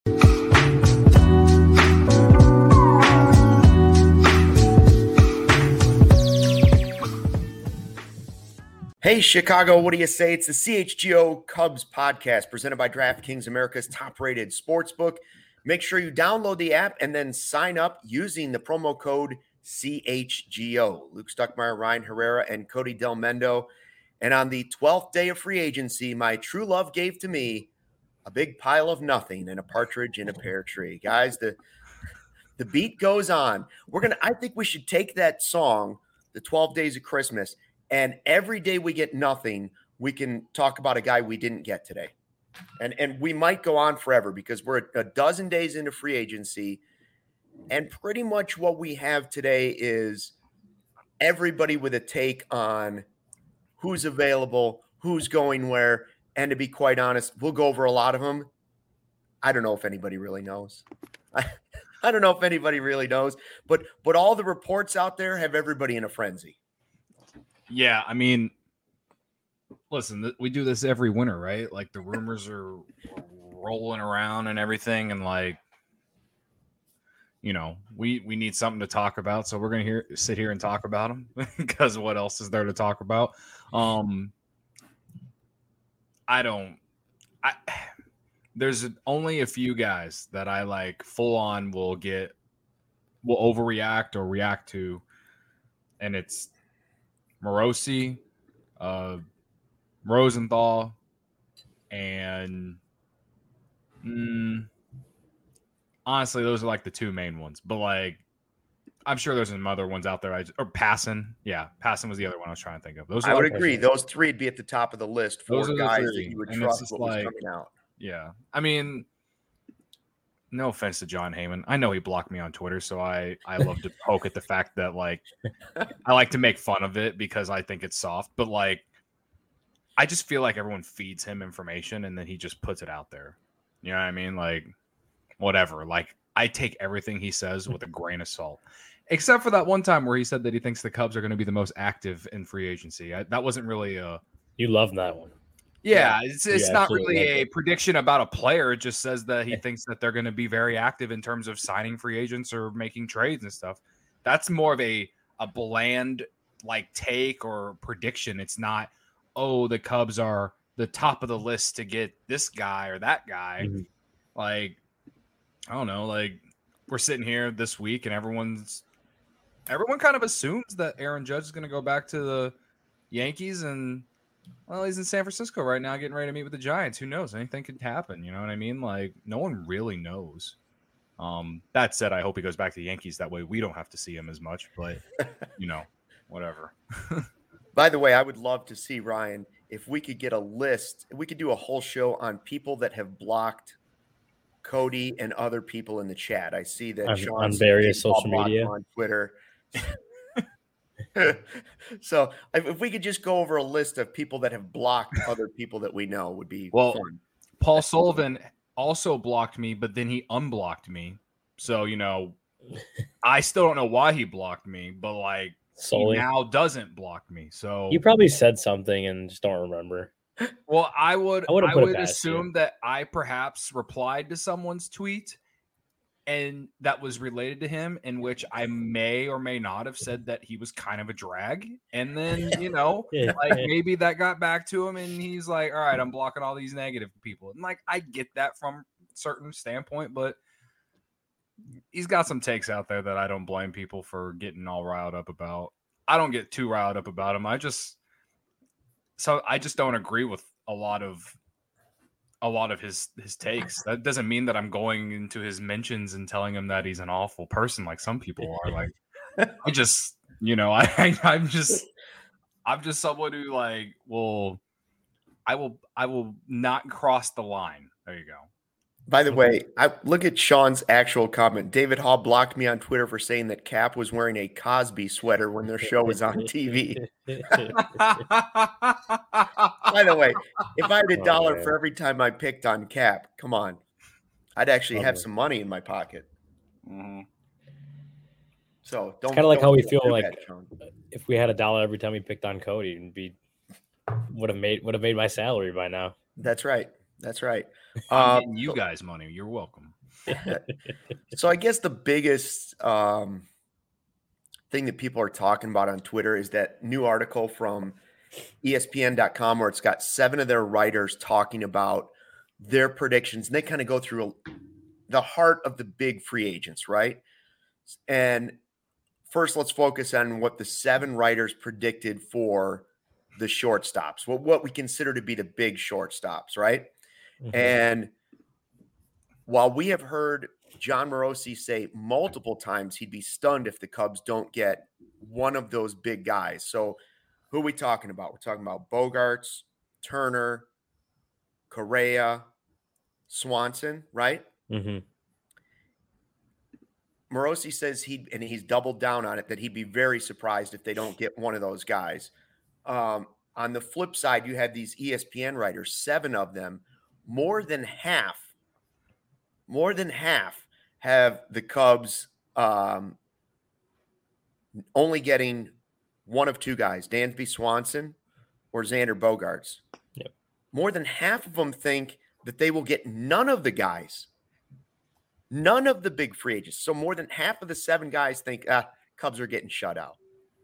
Hey, Chicago, what do you say? It's the CHGO Cubs podcast presented by DraftKings, America's top-rated sportsbook. Make sure you download the app and then sign up using the promo code CHGO. Luke Stuckmeyer, Ryan Herrera, and Cody Del Mendo. And on the 12th day of free agency, my true love gave to me a big pile of nothing and a partridge in a pear tree. Guys, the beat goes on. I think we should take that song, the 12 Days of Christmas, and every day we get nothing, we can talk about a guy we didn't get today. And we might go on forever because we're a dozen days into free agency. And pretty much what we have today is everybody with a take on who's available, who's going where. And to be quite honest, we'll go over a lot of them. I don't know if anybody really knows. I don't know if anybody really knows. But all the reports out there have everybody in a frenzy. Yeah, I mean, listen, we do this every winter, right? Like the rumors are rolling around and everything, and like, you know, we need something to talk about, so we're gonna sit here and talk about them because what else is there to talk about? There's only a few guys that I like full on will overreact or react to, and it's Morosi, Rosenthal, and honestly, those are like the two main ones. But like, I'm sure there's some other ones out there. Or Passan. Yeah, Passan was the other one I was trying to think of. I would agree. Those three would be at the top of the list for guys that you would trust what was coming out. Yeah. I mean, no offense to John Heyman. I know he blocked me on Twitter, so I love to poke at the fact that, like, I like to make fun of it because I think it's soft. But, like, I just feel like everyone feeds him information and then he just puts it out there. You know what I mean? Like, whatever. Like, I take everything he says with a grain of salt. Except for that one time where he said that he thinks the Cubs are going to be the most active in free agency. That wasn't really a... You love that one. Yeah, it's not really a prediction about a player. It just says that he thinks that they're going to be very active in terms of signing free agents or making trades and stuff. That's more of a bland like take or prediction. It's not, oh, the Cubs are the top of the list to get this guy or that guy. Mm-hmm. Like, I don't know, like we're sitting here this week and everyone kind of assumes that Aaron Judge is going to go back to the Yankees and, well, he's in San Francisco right now getting ready to meet with the Giants. Who knows? Anything could happen. You know what I mean? Like, no one really knows. That said, I hope he goes back to the Yankees. That way we don't have to see him as much. But, you know, whatever. By the way, I would love to see, Ryan, if we could get a list. We could do a whole show on people that have blocked Cody and other people in the chat. I see that on various social media. On Twitter. So if we could just go over a list of people that have blocked other people that we know would be fun. Paul Sullivan also blocked me, but then he unblocked me. So, you know, I still don't know why he blocked me, but like he now doesn't block me. So you probably said something and just don't remember. Well, I would assume that I perhaps replied to someone's tweet and that was related to him, in which I may or may not have said that he was kind of a drag. And then, you know, like maybe that got back to him and he's like, all right, I'm blocking all these negative people. And like, I get that from a certain standpoint, but he's got some takes out there that I don't blame people for getting all riled up about. I don't get too riled up about him. I just don't agree with a lot of his takes. That doesn't mean that I'm going into his mentions and telling him that he's an awful person like some people are. Like, I just, you know, I'm just someone who like I will not cross the line. There you go. By the way, I look at Sean's actual comment. David Hall blocked me on Twitter for saying that Cap was wearing a Cosby sweater when their show was on TV. By the way, if I had $1 for every time I picked on Cap, come on, I'd actually have some money in my pocket. Mm-hmm. So don't. It's kind of like how we feel like if we had $1 every time we picked on Cody, would have made my salary by now. That's right. That's right. I'm getting you guys money. You're welcome. So I guess the biggest thing that people are talking about on Twitter is that new article from ESPN.com where it's got 7 of their writers talking about their predictions. And they kind of go through the heart of the big free agents, right? And first, let's focus on what the 7 writers predicted for the shortstops, what we consider to be the big shortstops, right? Mm-hmm. And while we have heard Jon Morosi say multiple times he'd be stunned if the Cubs don't get one of those big guys. So who are we talking about? We're talking about Bogaerts, Turner, Correa, Swanson, right? Mm-hmm. Morosi says he's doubled down on it, that he'd be very surprised if they don't get one of those guys. On the flip side, you have these ESPN writers, 7 of them, more than half have the Cubs only getting one of 2 guys, Dansby Swanson or Xander Bogaerts. Yep. More than half of them think that they will get none of the guys, none of the big free agents. So more than half of the 7 guys think Cubs are getting shut out.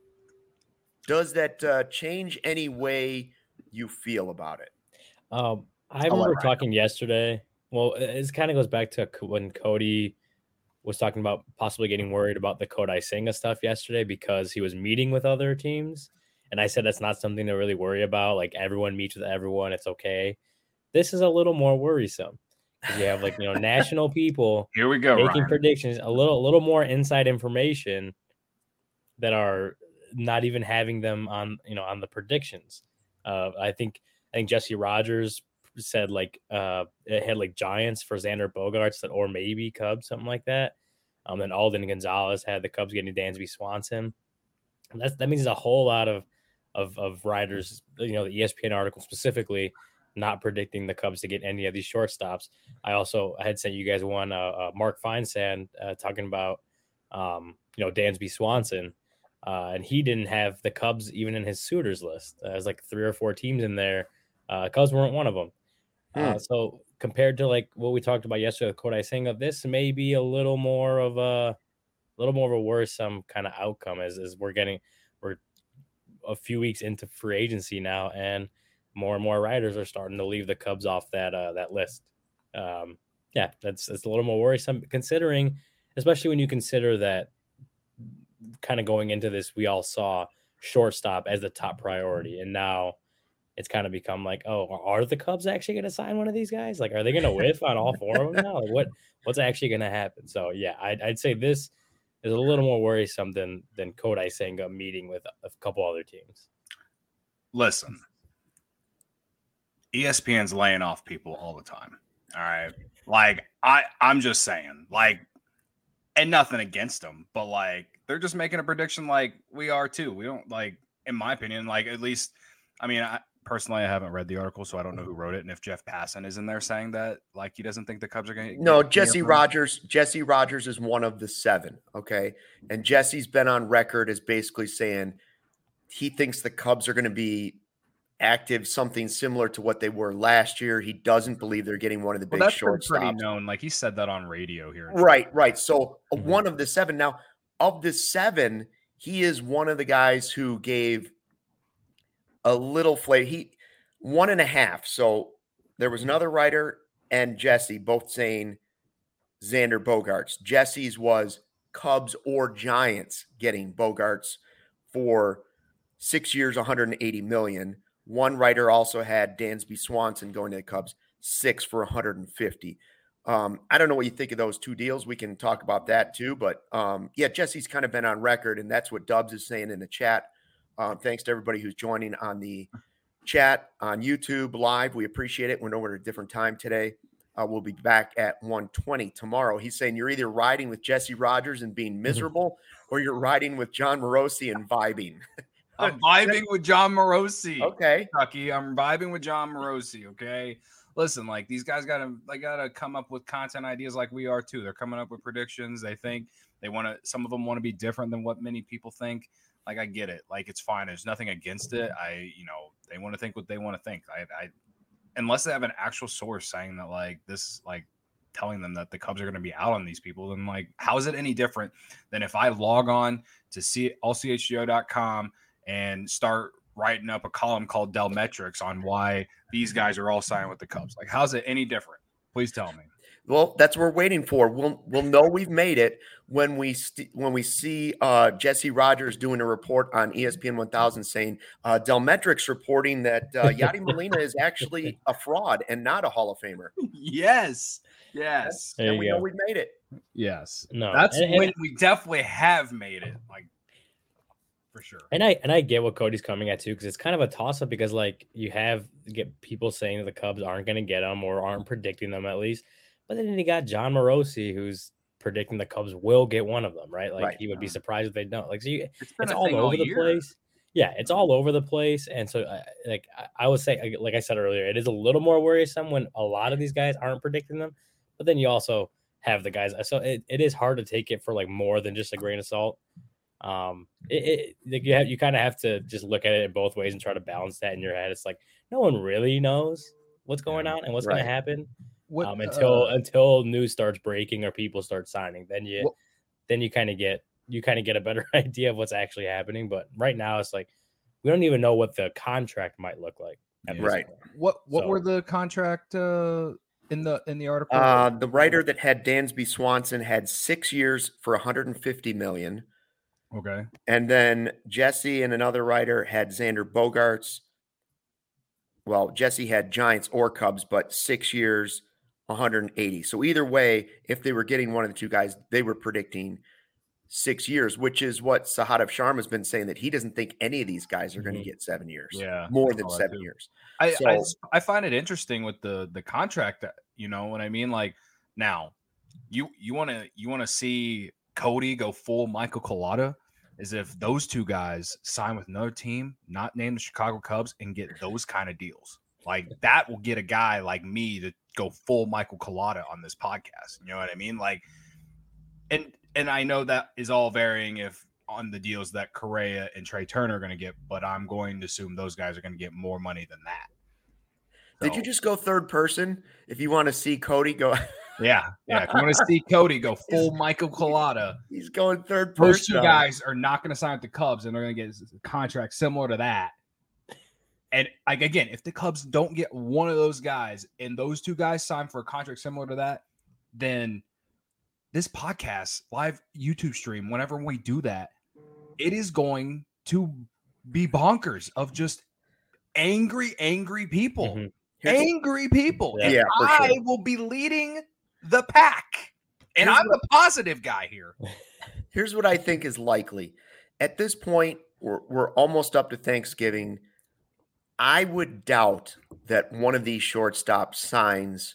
Does that change any way you feel about it? I remember talking yesterday. Well, it kind of goes back to when Cody was talking about possibly getting worried about the Kodai Senga stuff yesterday because he was meeting with other teams. And I said that's not something to really worry about. Like, everyone meets with everyone. It's okay. This is a little more worrisome. You have national people here we go making predictions, a little more inside information that are not even having them on the predictions. I think Jesse Rogers said it had Giants for Xander Bogaerts or maybe Cubs, something like that. Then Alden Gonzalez had the Cubs getting Dansby Swanson. And that means a whole lot of writers, the ESPN article specifically, not predicting the Cubs to get any of these shortstops. I had sent you guys one, Mark Feinsand talking about, Dansby Swanson. And he didn't have the Cubs even in his suitors list. There's 3 or 4 teams in there. Cubs weren't one of them. So compared to what we talked about yesterday with Kodai Senga, this may be a little more of a worrisome kind of outcome as we're a few weeks into free agency now, and more writers are starting to leave the Cubs off that list. That's a little more worrisome, especially when you consider that kind of going into this, we all saw shortstop as the top priority, and now it's kind of become are the Cubs actually going to sign one of these guys? Are they going to whiff on all 4 of them now? What's actually going to happen? So yeah, I'd say this is a little more worrisome than Kodai Senga meeting with a couple other teams. Listen, ESPN's laying off people all the time. All right. I'm just saying, and nothing against them, but they're just making a prediction we are too. We don't in my opinion, at least, personally, I haven't read the article, so I don't know who wrote it. And if Jeff Passan is in there saying that, he doesn't think the Cubs are going to. No, Jesse Rogers is one of the 7. Okay. And Jesse's been on record as basically saying he thinks the Cubs are going to be active, something similar to what they were last year. He doesn't believe they're getting one of the big shortstops. Pretty known. He said that on radio here. Right. So one of the 7. Now, of the 7, he is one of the guys who gave a little flavor. 1.5. So there was another writer and Jesse both saying Xander Bogaerts. Jesse's was Cubs or Giants getting Bogaerts for 6 years, $180 million. One writer also had Dansby Swanson going to the Cubs, 6 for $150. I don't know what you think of those 2 deals. We can talk about that too. But Jesse's kind of been on record, and that's what Dubs is saying in the chat. Thanks to everybody who's joining on the chat on YouTube live. We appreciate it. We're over at a different time today. We'll be back at 1:20 tomorrow. He's saying you're either riding with Jesse Rogers and being miserable, or you're riding with Jon Morosi and vibing. I'm vibing with Jon Morosi. Okay. Chucky, I'm vibing with Jon Morosi. Okay. Listen, these guys gotta come up with content ideas like we are too. They're coming up with predictions. They think some of them want to be different than what many people think. I get it. It's fine. There's nothing against it. They want to think what they want to think. unless they have an actual source saying that like this, like telling them that the Cubs are going to be out on these people, then like, how is it any different than if I log on to allchgo.com and start writing up a column called Dell Metrics on why these guys are all signed with the Cubs? Like, how's it any different? Please tell me. Well, that's what we're waiting for. We'll know we've made it when we see Jesse Rogers doing a report on ESPN 1000 saying Dell Metrics reporting that Yadi Molina is actually a fraud and not a Hall of Famer. Yes. And we know we've made it. Yes. No, that's when we definitely have made it. Like, for sure. And I get what Cody's coming at too, because it's kind of a toss up because like you get people saying that the Cubs aren't going to get them or aren't predicting them at least. But then you got John Morosi, who's predicting the Cubs will get one of them, right? Like he would be surprised if they don't. Like, so it's all over the place. Yeah, it's all over the place. And so, I would say, like I said earlier, it is a little more worrisome when a lot of these guys aren't predicting them. But then you also have the guys. So it is hard to take it for like more than just a grain of salt. You kind of have to just look at it in both ways and try to balance that in your head. It's like no one really knows what's going on and what's going to happen. Until news starts breaking or people start signing, then you kind of get a better idea of what's actually happening. But right now, it's like we don't even know what the contract might look like. Right. What were the contract in the article? The writer that had Dansby Swanson had 6 years for $150 million. Okay. And then Jesse and another writer had Xander Bogaerts. Well, Jesse had Giants or Cubs, but 6 years, 180. So either way, if they were getting one of the two guys, they were predicting 6 years, which is what Sahadev Sharma has been saying, that he doesn't think any of these guys are going to get 7 years. Yeah, more than 7 years. I find it interesting with the contract. You know what I mean? Like now, you want to see Cody go full Michael Collada, is if those two guys sign with another team, not named the Chicago Cubs, and get those kind of deals. Like that will get a guy like me to go full Michael Collada on this podcast. You know what I mean? Like, and I know that is all varying if on the deals that Correa and Trey Turner are going to get, but I'm going to assume those guys are going to get more money than that. So, did you just go third person? If you want to see Cody go, yeah. If you want to see Cody go full Michael Collada, he's going third person. Those two guys are not going to sign with the Cubs, and they're going to get a contract similar to that. And like again, if the Cubs don't get one of those guys and those two guys sign for a contract similar to that, then this podcast, live YouTube stream, whenever we do that, it is going to be bonkers of just angry people. Mm-hmm. Angry people. Yeah, and I will be leading the pack. And I'm the positive guy here. Here's what I think is likely. At this point, we're almost up to Thanksgiving. I would doubt that one of these shortstops signs.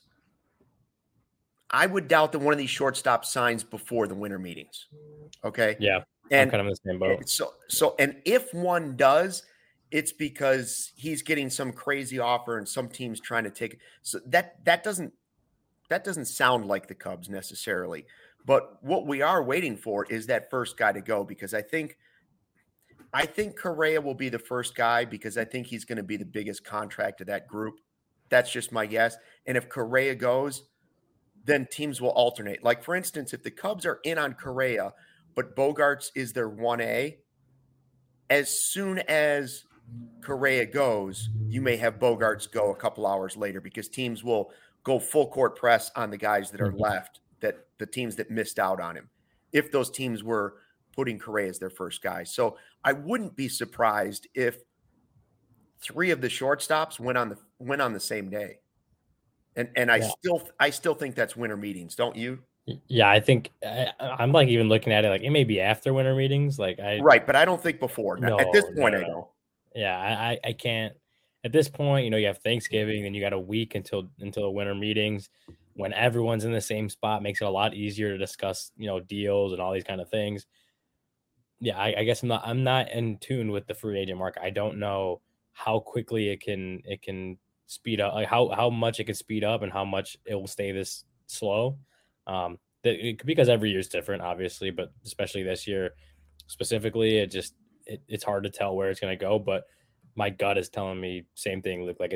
I would doubt that one of these shortstops signs before the winter meetings. Okay. Yeah. And I'm kind of in the same boat. So, and if one does, it's because he's getting some crazy offer and some team's trying to take. So that doesn't sound like the Cubs necessarily. But what we are waiting for is that first guy to go, because I think Correa will be the first guy, because I think he's going to be the biggest contract of that group. That's just my guess. And if Correa goes, then teams will alternate. Like, for instance, if the Cubs are in on Correa, but Bogaerts is their 1A, as soon as Correa goes, you may have Bogaerts go a couple hours later, because teams will go full court press on the guys that are left, that the teams that missed out on him, if those teams were putting Correa as their first guy. So I wouldn't be surprised if 3 of the shortstops went on the same day. And I still think that's winter meetings, don't you? Yeah, I think I'm like even looking at it like it may be after winter meetings. Like right, but I don't think before. No, at this point, I don't. Yeah, I can't. At this point, you have Thanksgiving, then you got a week until the winter meetings, when everyone's in the same spot. Makes it a lot easier to discuss, deals and all these kind of things. Yeah, I guess I'm not in tune with the free agent market. I don't know how quickly it can speed up, like how much it can speed up and how much it will stay this slow. Because every year is different, obviously, but especially this year specifically, it's hard to tell where it's going to go. But my gut is telling me same thing. Look, like it's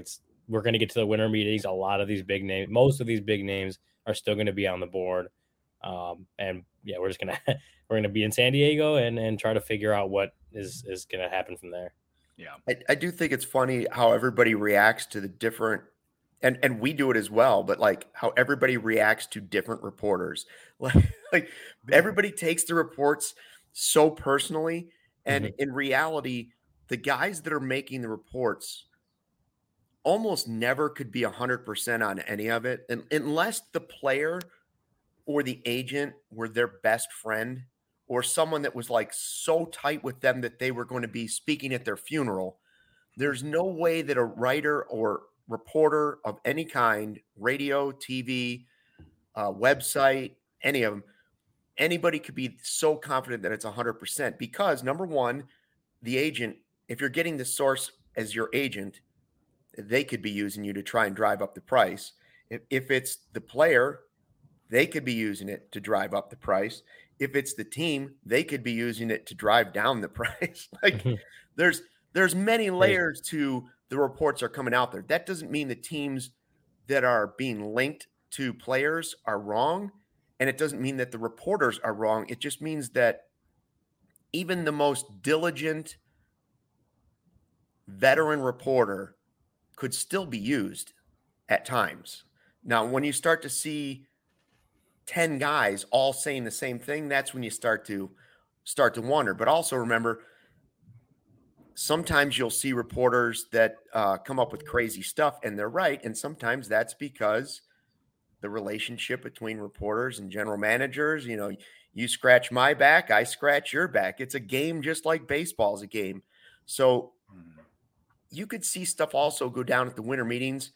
we're going to get to the winter meetings. A lot of these big names, most of these big names are still going to be on the board. And yeah, we're going to be in San Diego and try to figure out what is going to happen from there. Yeah. I do think it's funny how everybody reacts to the different, and we do it as well, but like how everybody reacts to different reporters. Like everybody takes the reports so personally. And in reality, the guys that are making the reports almost never could be 100% on any of it, unless the player or the agent were their best friend or someone that was like so tight with them that they were going to be speaking at their funeral. There's no way that a writer or reporter of any kind, radio, TV, website, any of them, anybody could be so confident that it's 100% because, number one, the agent, if you're getting the source as your agent, they could be using you to try and drive up the price. If it's the player, they could be using it to drive up the price. If it's the team, they could be using it to drive down the price. Like there's many layers to the reports are coming out there. That doesn't mean the teams that are being linked to players are wrong. And it doesn't mean that the reporters are wrong. It just means that even the most diligent veteran reporter could still be used at times. Now, when you start to see 10 guys all saying the same thing, that's when you start to wonder. But also remember, sometimes you'll see reporters that come up with crazy stuff and they're right. And sometimes that's because the relationship between reporters and general managers, you scratch my back, I scratch your back. It's a game just like baseball is a game. So you could see stuff also go down at the winter meetings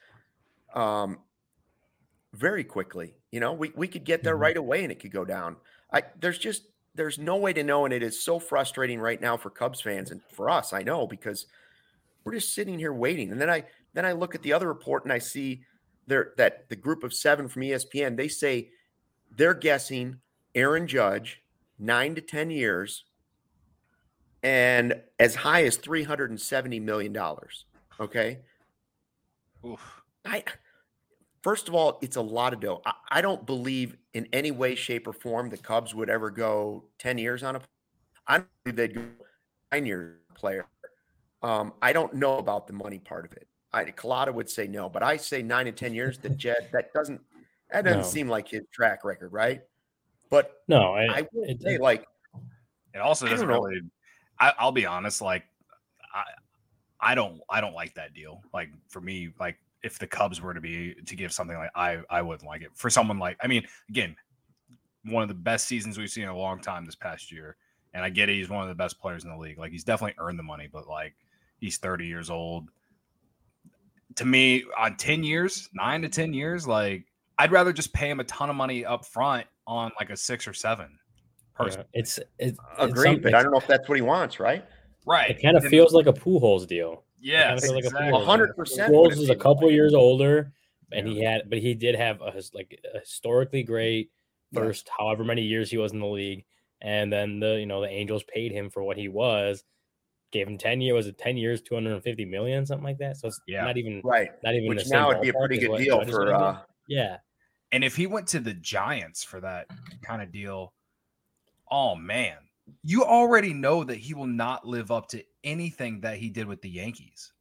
very quickly. We could get there right away and it could go down. There's no way to know. And it is so frustrating right now for Cubs fans and for us, I know, because we're just sitting here waiting. And then I look at the other report and I see that the group of 7 from ESPN, they say they're guessing Aaron Judge 9 to 10 years and as high as $370 million. Okay. Oof. First of all, it's a lot of dough. I don't believe in any way, shape, or form the Cubs would ever go 10 years on I don't believe they'd go 9 years player. I don't know about the money part of it. Collada would say no, but I say 9 and 10 years. That doesn't seem like his track record, right? But no, I would say like it also doesn't really. I'll be honest, like I don't like that deal. Like for me, like if the Cubs were to give something like I wouldn't like it. For someone like, I mean, again, one of the best seasons we've seen in a long time this past year. And I get it, he's one of the best players in the league. Like he's definitely earned the money, but like he's 30 years old. To me, on 10 years, 9 to 10 years, like I'd rather just pay him a ton of money up front on like a 6 or 7. Personally. It's agreed, but I don't know if that's what he wants, right? Right. It kind of feels like a Pujols deal. Yeah, exactly. 100%. Pujols is a couple years older, and he did have a historically great first however many years he was in the league, and then the Angels paid him for what he was, gave him 10 years. Was it 10 years, $250 million, something like that? So it's not even right. Not even which now would be a pretty good deal for. Yeah. And if he went to the Giants for that kind of deal, oh man, you already know that he will not live up to anything that he did with the Yankees.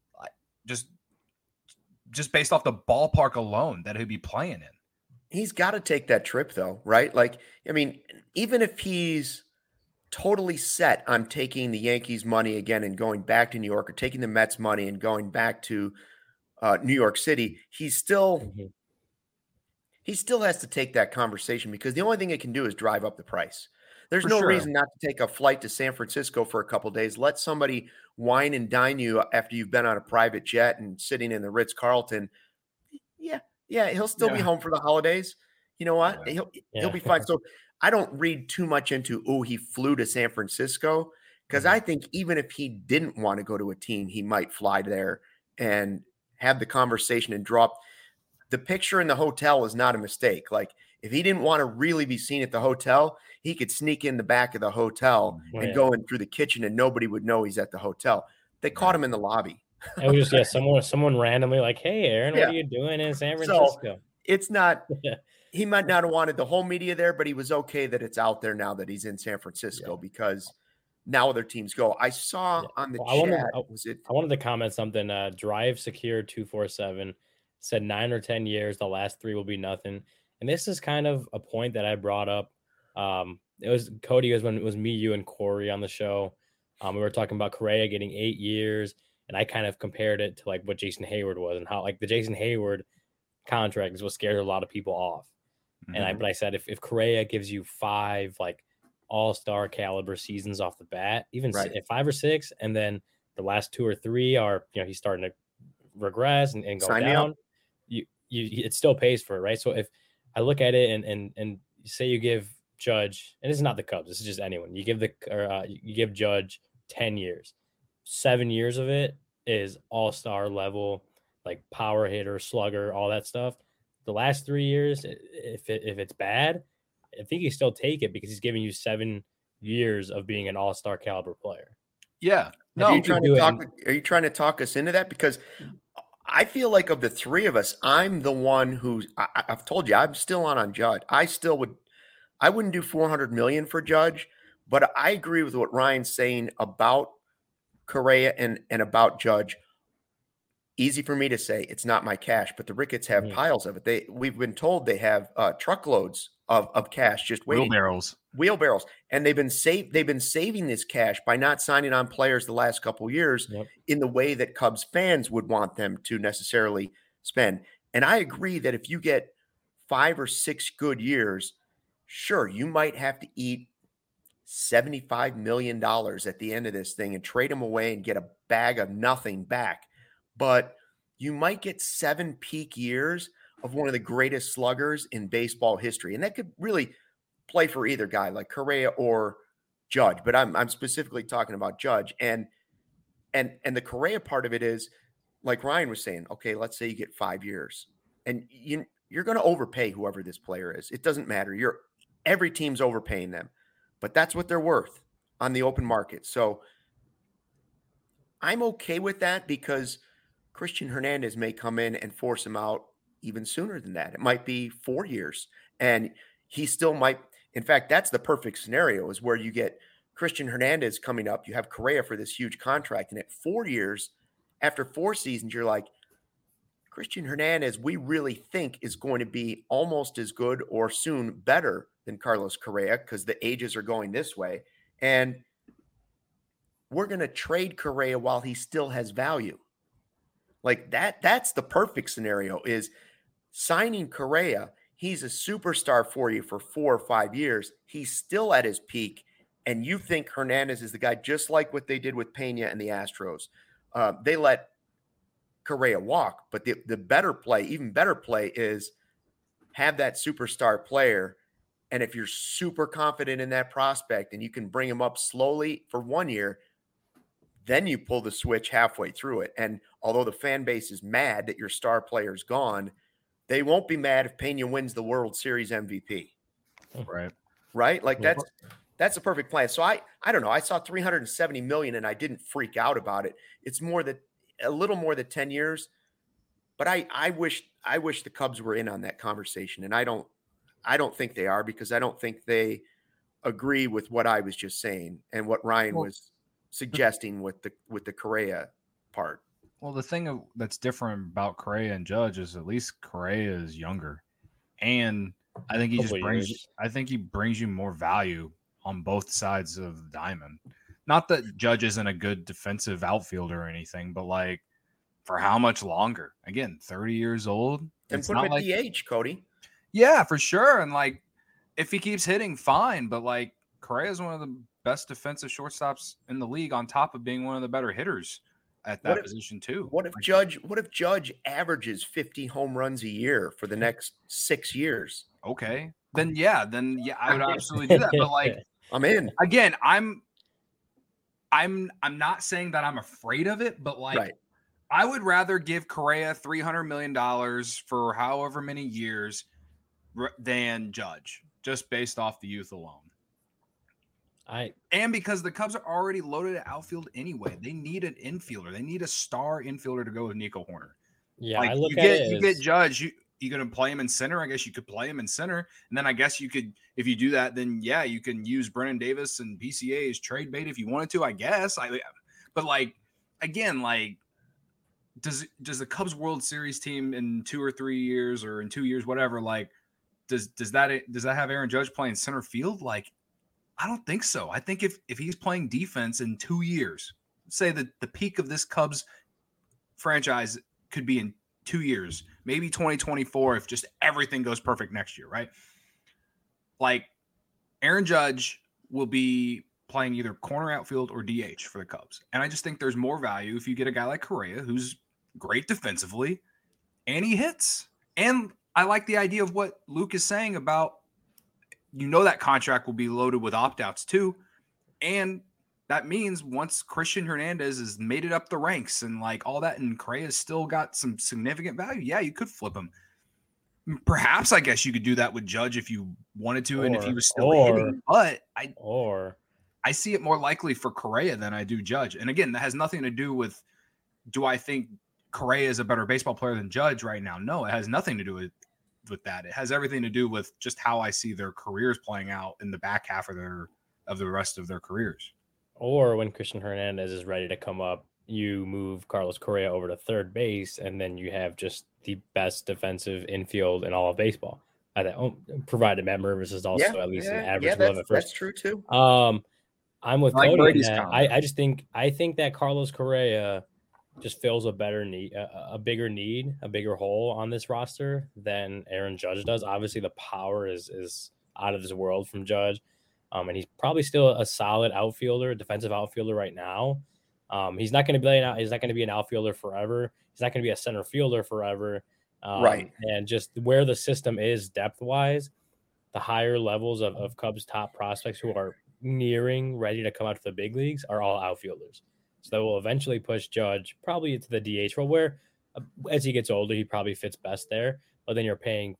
Just based off the ballpark alone that he'd be playing in. He's got to take that trip though, right? Like, I mean, even if he's totally set on taking the Yankees money again and going back to New York, or taking the Mets money and going back to New York City, he still has to take that conversation, because the only thing it can do is drive up the price. There's no reason not to take a flight to San Francisco for a couple of days. Let somebody wine and dine you after you've been on a private jet and sitting in the Ritz-Carlton. Yeah, he'll still be home for the holidays. You know what? He'll be fine. So I don't read too much into, he flew to San Francisco, because I think even if he didn't want to go to a team, he might fly there and have the conversation and drop. The picture in the hotel is not a mistake. Like, if he didn't want to really be seen at the hotel, he could sneak in the back of the hotel and go in through the kitchen and nobody would know he's at the hotel. They caught him in the lobby. It was just someone randomly like, "Hey, Aaron, what are you doing in San Francisco?" So it's not. He might not have wanted the whole media there, but he was okay that it's out there now that he's in San Francisco because now other teams go. I saw on the chat. I wanted to comment something. Drive Secure 247 said 9 or 10 years. The last 3 will be nothing. And this is kind of a point that I brought up. It was Cody. When it was me, you, and Corey on the show. We were talking about Correa getting 8 years, and I kind of compared it to like what Jason Hayward was and how like the Jason Hayward contract is what scared a lot of people off. And I said if Correa gives you 5 like all-star caliber seasons off the bat, even 5 or 6, and then the last 2 or 3 are he's starting to regress and go down, you it still pays for it, right? So if I look at it and say you give Judge, and this is not the Cubs, this is just anyone, you give Judge 10 years, 7 years of it is all-star level, like power hitter, slugger, all that stuff. The last 3 years, if it's bad, I think you still take it because he's giving you 7 years of being an all-star caliber player. Yeah. No, are you trying to talk us into that? Because I feel like of the 3 of us, I'm the one who's I've told you I'm still on Judge. I wouldn't do $400 million for Judge, but I agree with what Ryan's saying about Correa and about Judge. Easy for me to say, it's not my cash, but the Ricketts have piles of it. We've been told they have truckloads of cash just waiting. Wheelbarrows. And they've been saving this cash by not signing on players the last couple of years in the way that Cubs fans would want them to necessarily spend. And I agree that if you get 5 or 6 good years, sure, you might have to eat $75 million at the end of this thing and trade them away and get a bag of nothing back. But you might get 7 peak years of one of the greatest sluggers in baseball history. And that could really play for either guy, like Correa or Judge. But I'm specifically talking about Judge. And the Correa part of it is, like Ryan was saying, okay, let's say you get 5 years. And you're going to overpay whoever this player is. It doesn't matter. Every team's overpaying them. But that's what they're worth on the open market. So I'm okay with that because Christian Hernandez may come in and force him out even sooner than that. It might be 4 years, and he still might. In fact, that's the perfect scenario is where you get Christian Hernandez coming up. You have Correa for this huge contract, and at 4 years, after 4 seasons, you're like, Christian Hernandez, we really think is going to be almost as good or soon better than Carlos Correa because the ages are going this way. And we're going to trade Correa while he still has value. Like that's the perfect scenario is signing Correa. He's a superstar for you for 4 or 5 years. He's still at his peak. And you think Hernandez is the guy, just like what they did with Pena and the Astros. They let Correa walk, but the better play, even better play is have that superstar player. And if you're super confident in that prospect and you can bring him up slowly for 1 year, then you pull the switch halfway through it. And although the fan base is mad that your star player's gone, they won't be mad if Pena wins the World Series MVP. Right? Like that's a perfect plan. So I don't know. I saw $370 million and I didn't freak out about it. It's a little more than 10 years. But I wish the Cubs were in on that conversation. And I don't think they are because I don't think they agree with what I was just saying and what Ryan was suggesting with the Correa part. Well, the thing that's different about Correa and Judge is at least Correa is younger, and I think he brings you more value on both sides of the diamond. Not that Judge isn't a good defensive outfielder or anything, but like for how much longer? Again, 30 years old, and put him at DH, Cody. Yeah, for sure. And like if he keeps hitting, fine, but like Correa is one of the best defensive shortstops in the league on top of being one of the better hitters at that position too. What if Judge averages 50 home runs a year for the next 6 years? Okay. Then I would absolutely do that. But like I'm in. Again, I'm not saying that I'm afraid of it, but like I would rather give Correa $300 million for however many years than Judge, just based off the youth alone. And because the Cubs are already loaded at outfield anyway, they need an infielder. They need a star infielder to go with Nico Hoerner. Yeah, like, you get Judge. You going to play him in center? I guess you could play him in center, and then I guess you could, if you do that, then yeah, you can use Brennan Davis and PCA as trade bait if you wanted to. I guess. But like again, like does the Cubs World Series team in 2 or 3 years or in 2 years, whatever, like does that have Aaron Judge playing center field? Like, I don't think so. I think if he's playing defense in 2 years, say that the peak of this Cubs franchise could be in 2 years, maybe 2024 if just everything goes perfect next year, right? Like Aaron Judge will be playing either corner outfield or DH for the Cubs. And I just think there's more value if you get a guy like Correa who's great defensively and he hits. And I like the idea of what Luke is saying about, that contract will be loaded with opt-outs too. And that means once Christian Hernandez has made it up the ranks and like all that, and Correa's still got some significant value, yeah, you could flip him. Perhaps, I guess you could do that with Judge if you wanted to, and if he was still hitting. But I see it more likely for Correa than I do Judge. And again, that has nothing to do with, do I think Correa is a better baseball player than Judge right now? No, it has nothing to do with that. It has everything to do with just how I see their careers playing out in the back half of the rest of their careers. Or when Christian Hernandez is ready to come up, you move Carlos Correa over to third base, and then you have just the best defensive infield in all of baseball. Provided Matt Mervis is also at least an average above at first. That's true too. I'm with Cody. I think that Carlos Correa just fills a bigger hole on this roster than Aaron Judge does. Obviously, the power is out of this world from Judge. And he's probably still a solid outfielder, defensive outfielder right now. He's not going to be an outfielder forever. He's not going to be a center fielder forever. Right. And just where the system is depth wise, the higher levels of Cubs top prospects who are nearing ready to come out to the big leagues are all outfielders. So that will eventually push Judge probably into the DH role, where as he gets older, he probably fits best there. But then you're paying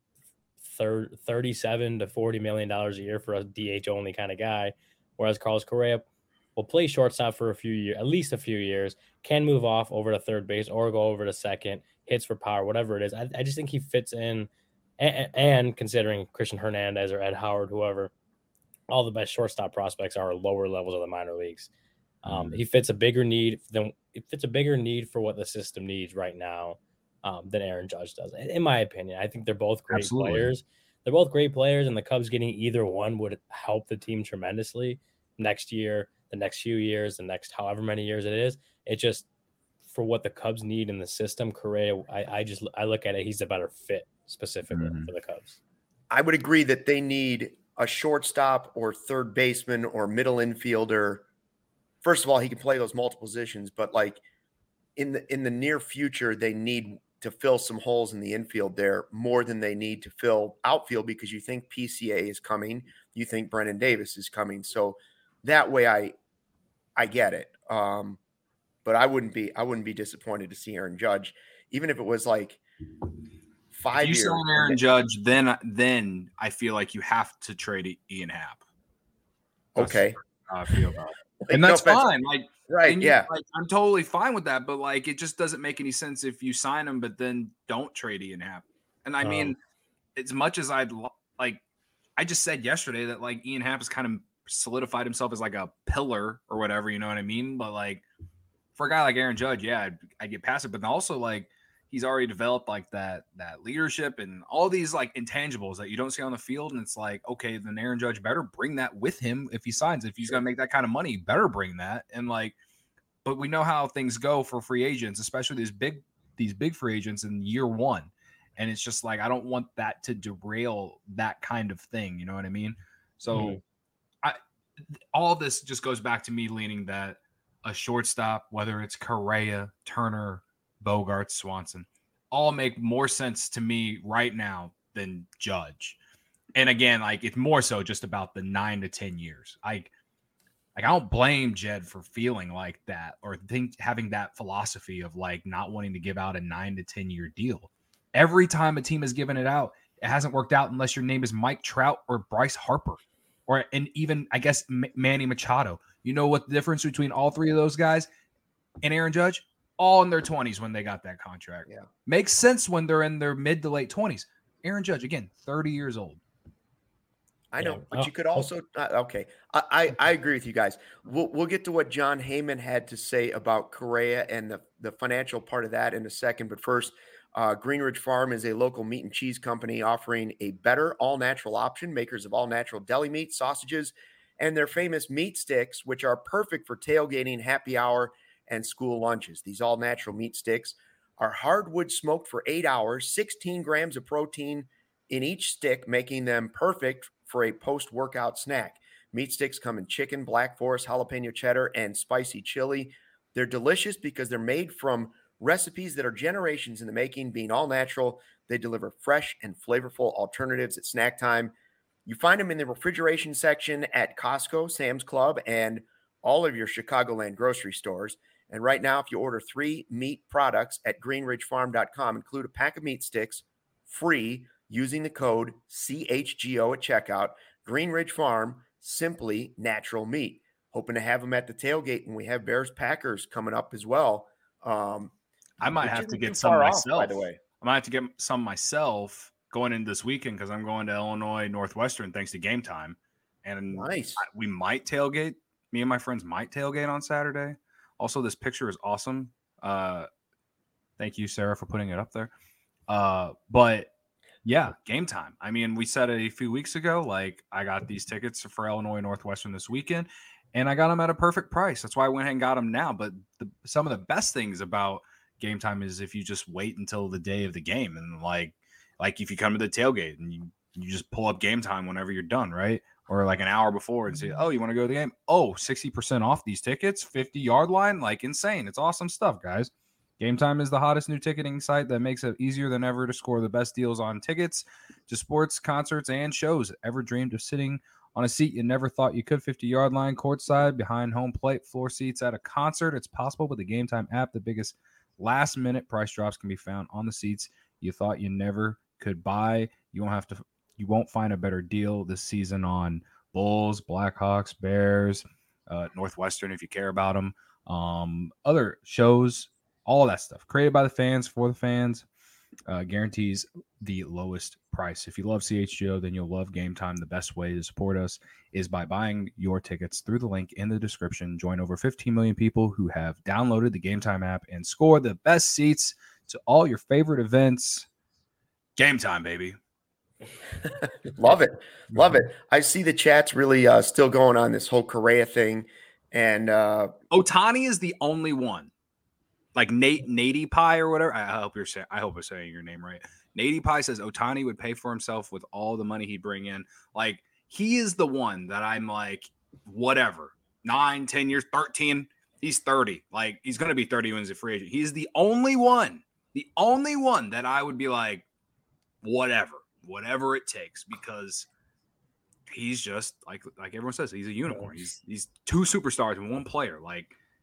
$37 to $40 million a year for a DH only kind of guy, whereas Carlos Correa will play shortstop for at least a few years, can move off over to third base or go over to second, hits for power, whatever it is. I just think he fits in, and considering Christian Hernandez or Ed Howard, whoever, all the best shortstop prospects are lower levels of the minor leagues. He fits a bigger need for what the system needs right now than Aaron Judge does, in my opinion. I think they're both great players. They're both great players, and the Cubs getting either one would help the team tremendously next year, the next few years, the next however many years it is. It just, for what the Cubs need in the system, Correa, I look at it, he's a better fit specifically for the Cubs. I would agree that they need a shortstop or third baseman or middle infielder. First of all, he can play those multiple positions, but like in the near future, they need to fill some holes in the infield there more than they need to fill outfield, because you think PCA is coming, you think Brennan Davis is coming. So that way I get it. But I wouldn't be disappointed to see Aaron Judge, even if it was like 5 years. If you sign Aaron Judge, then I feel like you have to trade Ian Happ. Okay. How I feel about it. And that's fine. Like, right. Yeah. Like, I'm totally fine with that. But like, it just doesn't make any sense if you sign him, but then don't trade Ian Happ. And I mean, as much as I'd like, I just said yesterday that like Ian Happ has kind of solidified himself as like a pillar or whatever, you know what I mean? But like, for a guy like Aaron Judge, yeah, I get past it. But also like, he's already developed like that leadership and all these like intangibles that you don't see on the field. And it's like, okay, then Aaron Judge better bring that with him if he signs. If he's going to make that kind of money, better bring that. And like, but we know how things go for free agents, especially these big free agents in year one. And it's just like, I don't want that to derail that kind of thing. You know what I mean? So all of this just goes back to me leaning that a shortstop, whether it's Correa, Turner, Bogaerts, Swanson, all make more sense to me right now than Judge. And again, like it's more so just about the 9 to 10 years. I don't blame Jed for feeling like that or having that philosophy of like not wanting to give out a 9 to 10 year deal. Every time a team has given it out, it hasn't worked out unless your name is Mike Trout or Bryce Harper. and even I guess Manny Machado. You know what the difference between all three of those guys and Aaron Judge? All in their 20s when they got that contract. Yeah. Makes sense when they're in their mid to late 20s. Aaron Judge, again, 30 years old. I know, but you could also okay. I agree with you guys. We'll get to what John Heyman had to say about Correa and the financial part of that in a second. But first, Green Ridge Farm is a local meat and cheese company offering a better all-natural option. Makers of all-natural deli meat, sausages, and their famous meat sticks, which are perfect for tailgating, happy hour, and school lunches. These all-natural meat sticks are hardwood smoked for 8 hours, 16 grams of protein in each stick, making them perfect for a post-workout snack. Meat sticks come in chicken, black forest, jalapeno cheddar, and spicy chili. They're delicious because they're made from recipes that are generations in the making. Being all natural, they deliver fresh and flavorful alternatives at snack time. You find them in the refrigeration section at Costco, Sam's Club, and all of your Chicagoland grocery stores. And right now, if you order 3 meat products at greenridgefarm.com, include a pack of meat sticks free using the code CHGO at checkout. Green Ridge Farm, simply natural meat. Hoping to have them at the tailgate, and we have Bears Packers coming up as well. I might have to get some myself. By the way, I might have to get some myself going into this weekend because I'm going to Illinois Northwestern thanks to Game Time, and nice. We might tailgate. Me and my friends might tailgate on Saturday. Also, this picture is awesome. Thank you, Sarah, for putting it up there. But yeah, Game Time. I mean, we said it a few weeks ago. Like, I got these tickets for Illinois Northwestern this weekend, and I got them at a perfect price. That's why I went ahead and got them now. But some of the best things about Game Time is if you just wait until the day of the game, and like if you come to the tailgate and you just pull up Game Time whenever you're done, right? Or like an hour before and say, oh, you want to go to the game? Oh, 60% off these tickets, 50-yard line, like insane. It's awesome stuff, guys. Game Time is the hottest new ticketing site that makes it easier than ever to score the best deals on tickets to sports, concerts, and shows. Ever dreamed of sitting on a seat you never thought you could? 50-yard line, courtside, behind home plate, floor seats at a concert. It's possible with the Game Time app. The biggest last-minute price drops can be found on the seats you thought you never could buy. You won't find a better deal this season on Bulls, Blackhawks, Bears, Northwestern if you care about them, other shows, all of that stuff. Created by the fans, for the fans, guarantees the lowest price. If you love CHGO, then you'll love Game Time. The best way to support us is by buying your tickets through the link in the description. Join over 15 million people who have downloaded the Game Time app and score the best seats to all your favorite events. Game Time, baby. Love it. I see the chat's really still going on this whole Correa thing, and Ohtani is the only one. Like Nady Pie or whatever. I hope I'm saying your name right. Nady Pie says Ohtani would pay for himself with all the money he'd bring in. Like, he is the one that I'm like, whatever. 9, 10 years, 13. He's 30. Like, he's going to be 30 when he's a free agent. He's the only one that I would be like, whatever it takes, because he's just like everyone says, he's a unicorn. He's 2 superstars in one player. Like,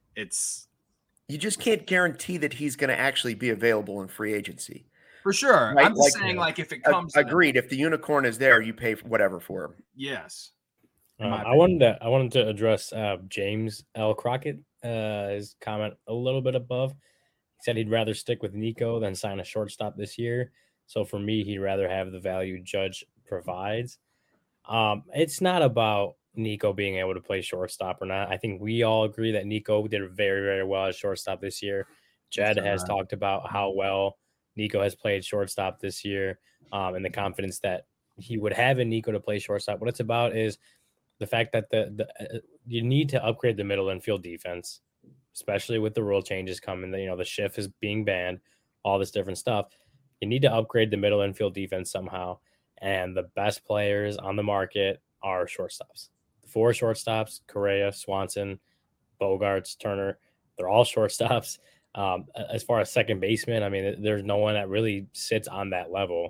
you just can't guarantee that he's going to actually be available in free agency. For sure. Right? I'm just saying, like, if it comes agreed, if the unicorn is there, you pay whatever for him. Yes. I wanted to address James L. Crockett, his comment a little bit above. He said he'd rather stick with Nico than sign a shortstop this year. So for me, he'd rather have the value Judge provides. It's not about Nico being able to play shortstop or not. I think we all agree that Nico did very, very well at shortstop this year. Jed has talked about how well Nico has played shortstop this year, and the confidence that he would have in Nico to play shortstop. What it's about is the fact that you need to upgrade the middle infield defense, especially with the rule changes coming. The shift is being banned, all this different stuff. You need to upgrade the middle infield defense somehow, and the best players on the market are shortstops. The 4 shortstops: Correa, Swanson, Bogarts, Turner. They're all shortstops. As far as second baseman, I mean, there's no one that really sits on that level.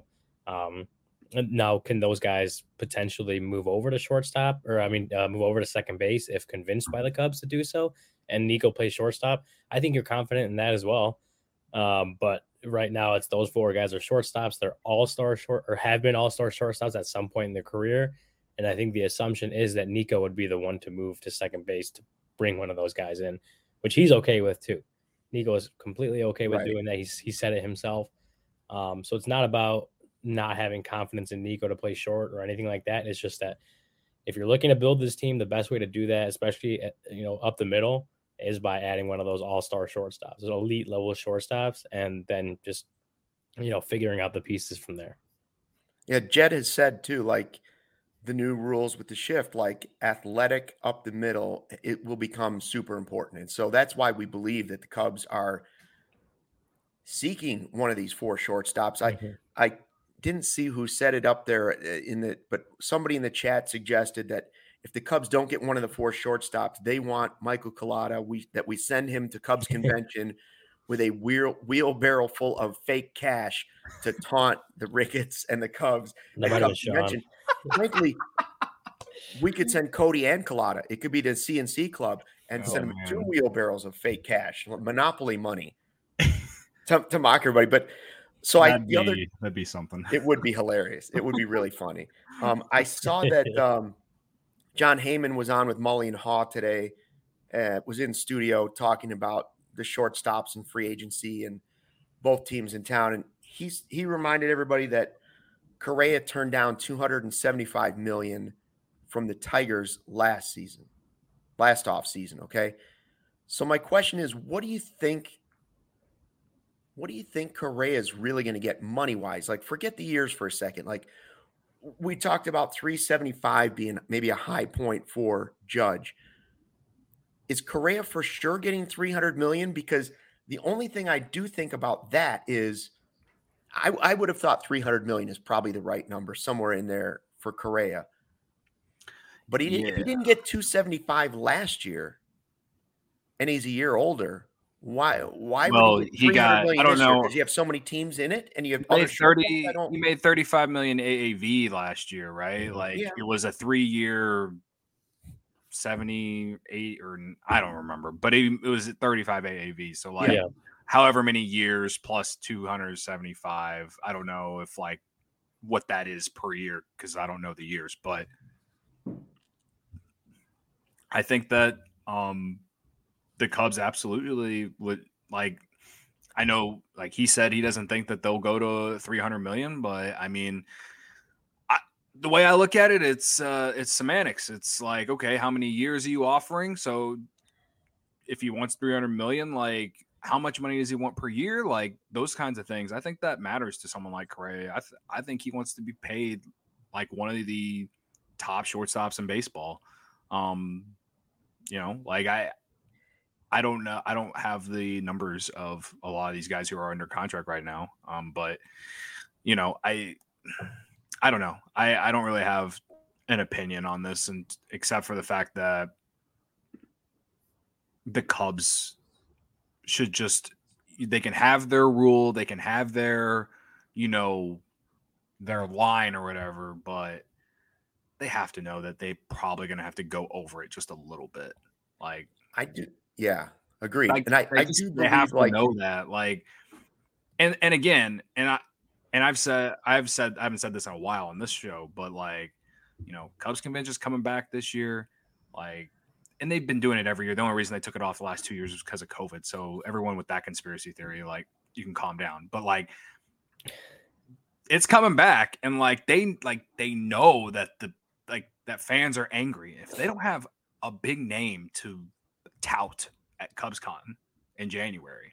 Now, can those guys potentially move over to shortstop, or move over to second base if convinced by the Cubs to do so? And Nico plays shortstop. I think you're confident in that as well. But right now, it's those 4 guys are shortstops. They're all-star or have been all-star shortstops at some point in their career. And I think the assumption is that Nico would be the one to move to second base to bring one of those guys in, which he's okay with too. Nico is completely okay with doing that. He said it himself. So it's not about not having confidence in Nico to play short or anything like that. It's just that if you're looking to build this team, the best way to do that, especially up the middle, is by adding one of those all-star shortstops, those elite level shortstops, and then just figuring out the pieces from there. Yeah, Jed has said too, like the new rules with the shift, like athletic up the middle, it will become super important. And so that's why we believe that the Cubs are seeking one of these 4 shortstops. I didn't see who said it up there but somebody in the chat suggested that if the Cubs don't get one of the 4 shortstops, they want Michael Collada, that we send him to Cubs convention with a wheelbarrow full of fake cash to taunt the Ricketts and the Cubs. Frankly, we could send Cody and Collada. It could be the CNC club and send them 2 wheelbarrows of fake cash, monopoly money to mock everybody. But so that'd be something. It would be hilarious. It would be really funny. I saw that John Heyman was on with Mully and Haw today, was in studio talking about the shortstops and free agency and both teams in town. And he reminded everybody that Correa turned down $275 million from the Tigers last off season. Okay. So my question is, what do you think Correa is really going to get money wise? Like, forget the years for a second. Like, we talked about 375 being maybe a high point for Judge. Is Correa for sure getting $300 million? Because the only thing I do think about that is I would have thought $300 million is probably the right number, somewhere in there for Correa. But if he didn't get 275 last year and he's a year older, why would he get $300 million I don't know. Because you have so many teams in it and you have he made $35 million AAV last year, right? Like it was a 3-year 78 or I don't remember, but it was 35 AAV. So however many years plus 275. I don't know if like what that is per year because I don't know the years, but I think that the Cubs absolutely would like. I know, like he said, he doesn't think that they'll go to $300 million, but I mean, the way I look at it, it's semantics. It's like, okay, how many years are you offering? So if he wants $300 million, like how much money does he want per year? Like those kinds of things. I think that matters to someone like Correa. I think he wants to be paid like one of the top shortstops in baseball. Like I don't know. I don't have the numbers of a lot of these guys who are under contract right now. But I don't know. I don't really have an opinion on this, and except for the fact that the Cubs should they can have their rule, they can have their, their line or whatever, but they have to know that they probably going to have to go over it just a little bit. Like I do. Yeah, agreed. Like, and I do they have to know that, like, and again, I've said I haven't said this in a while on this show, but like, Cubs convention's coming back this year, like, and they've been doing it every year. The only reason they took it off the last 2 years was because of COVID. So everyone with that conspiracy theory, like, you can calm down. But like, it's coming back, and like they know that that fans are angry if they don't have a big name to tout at CubsCon in January.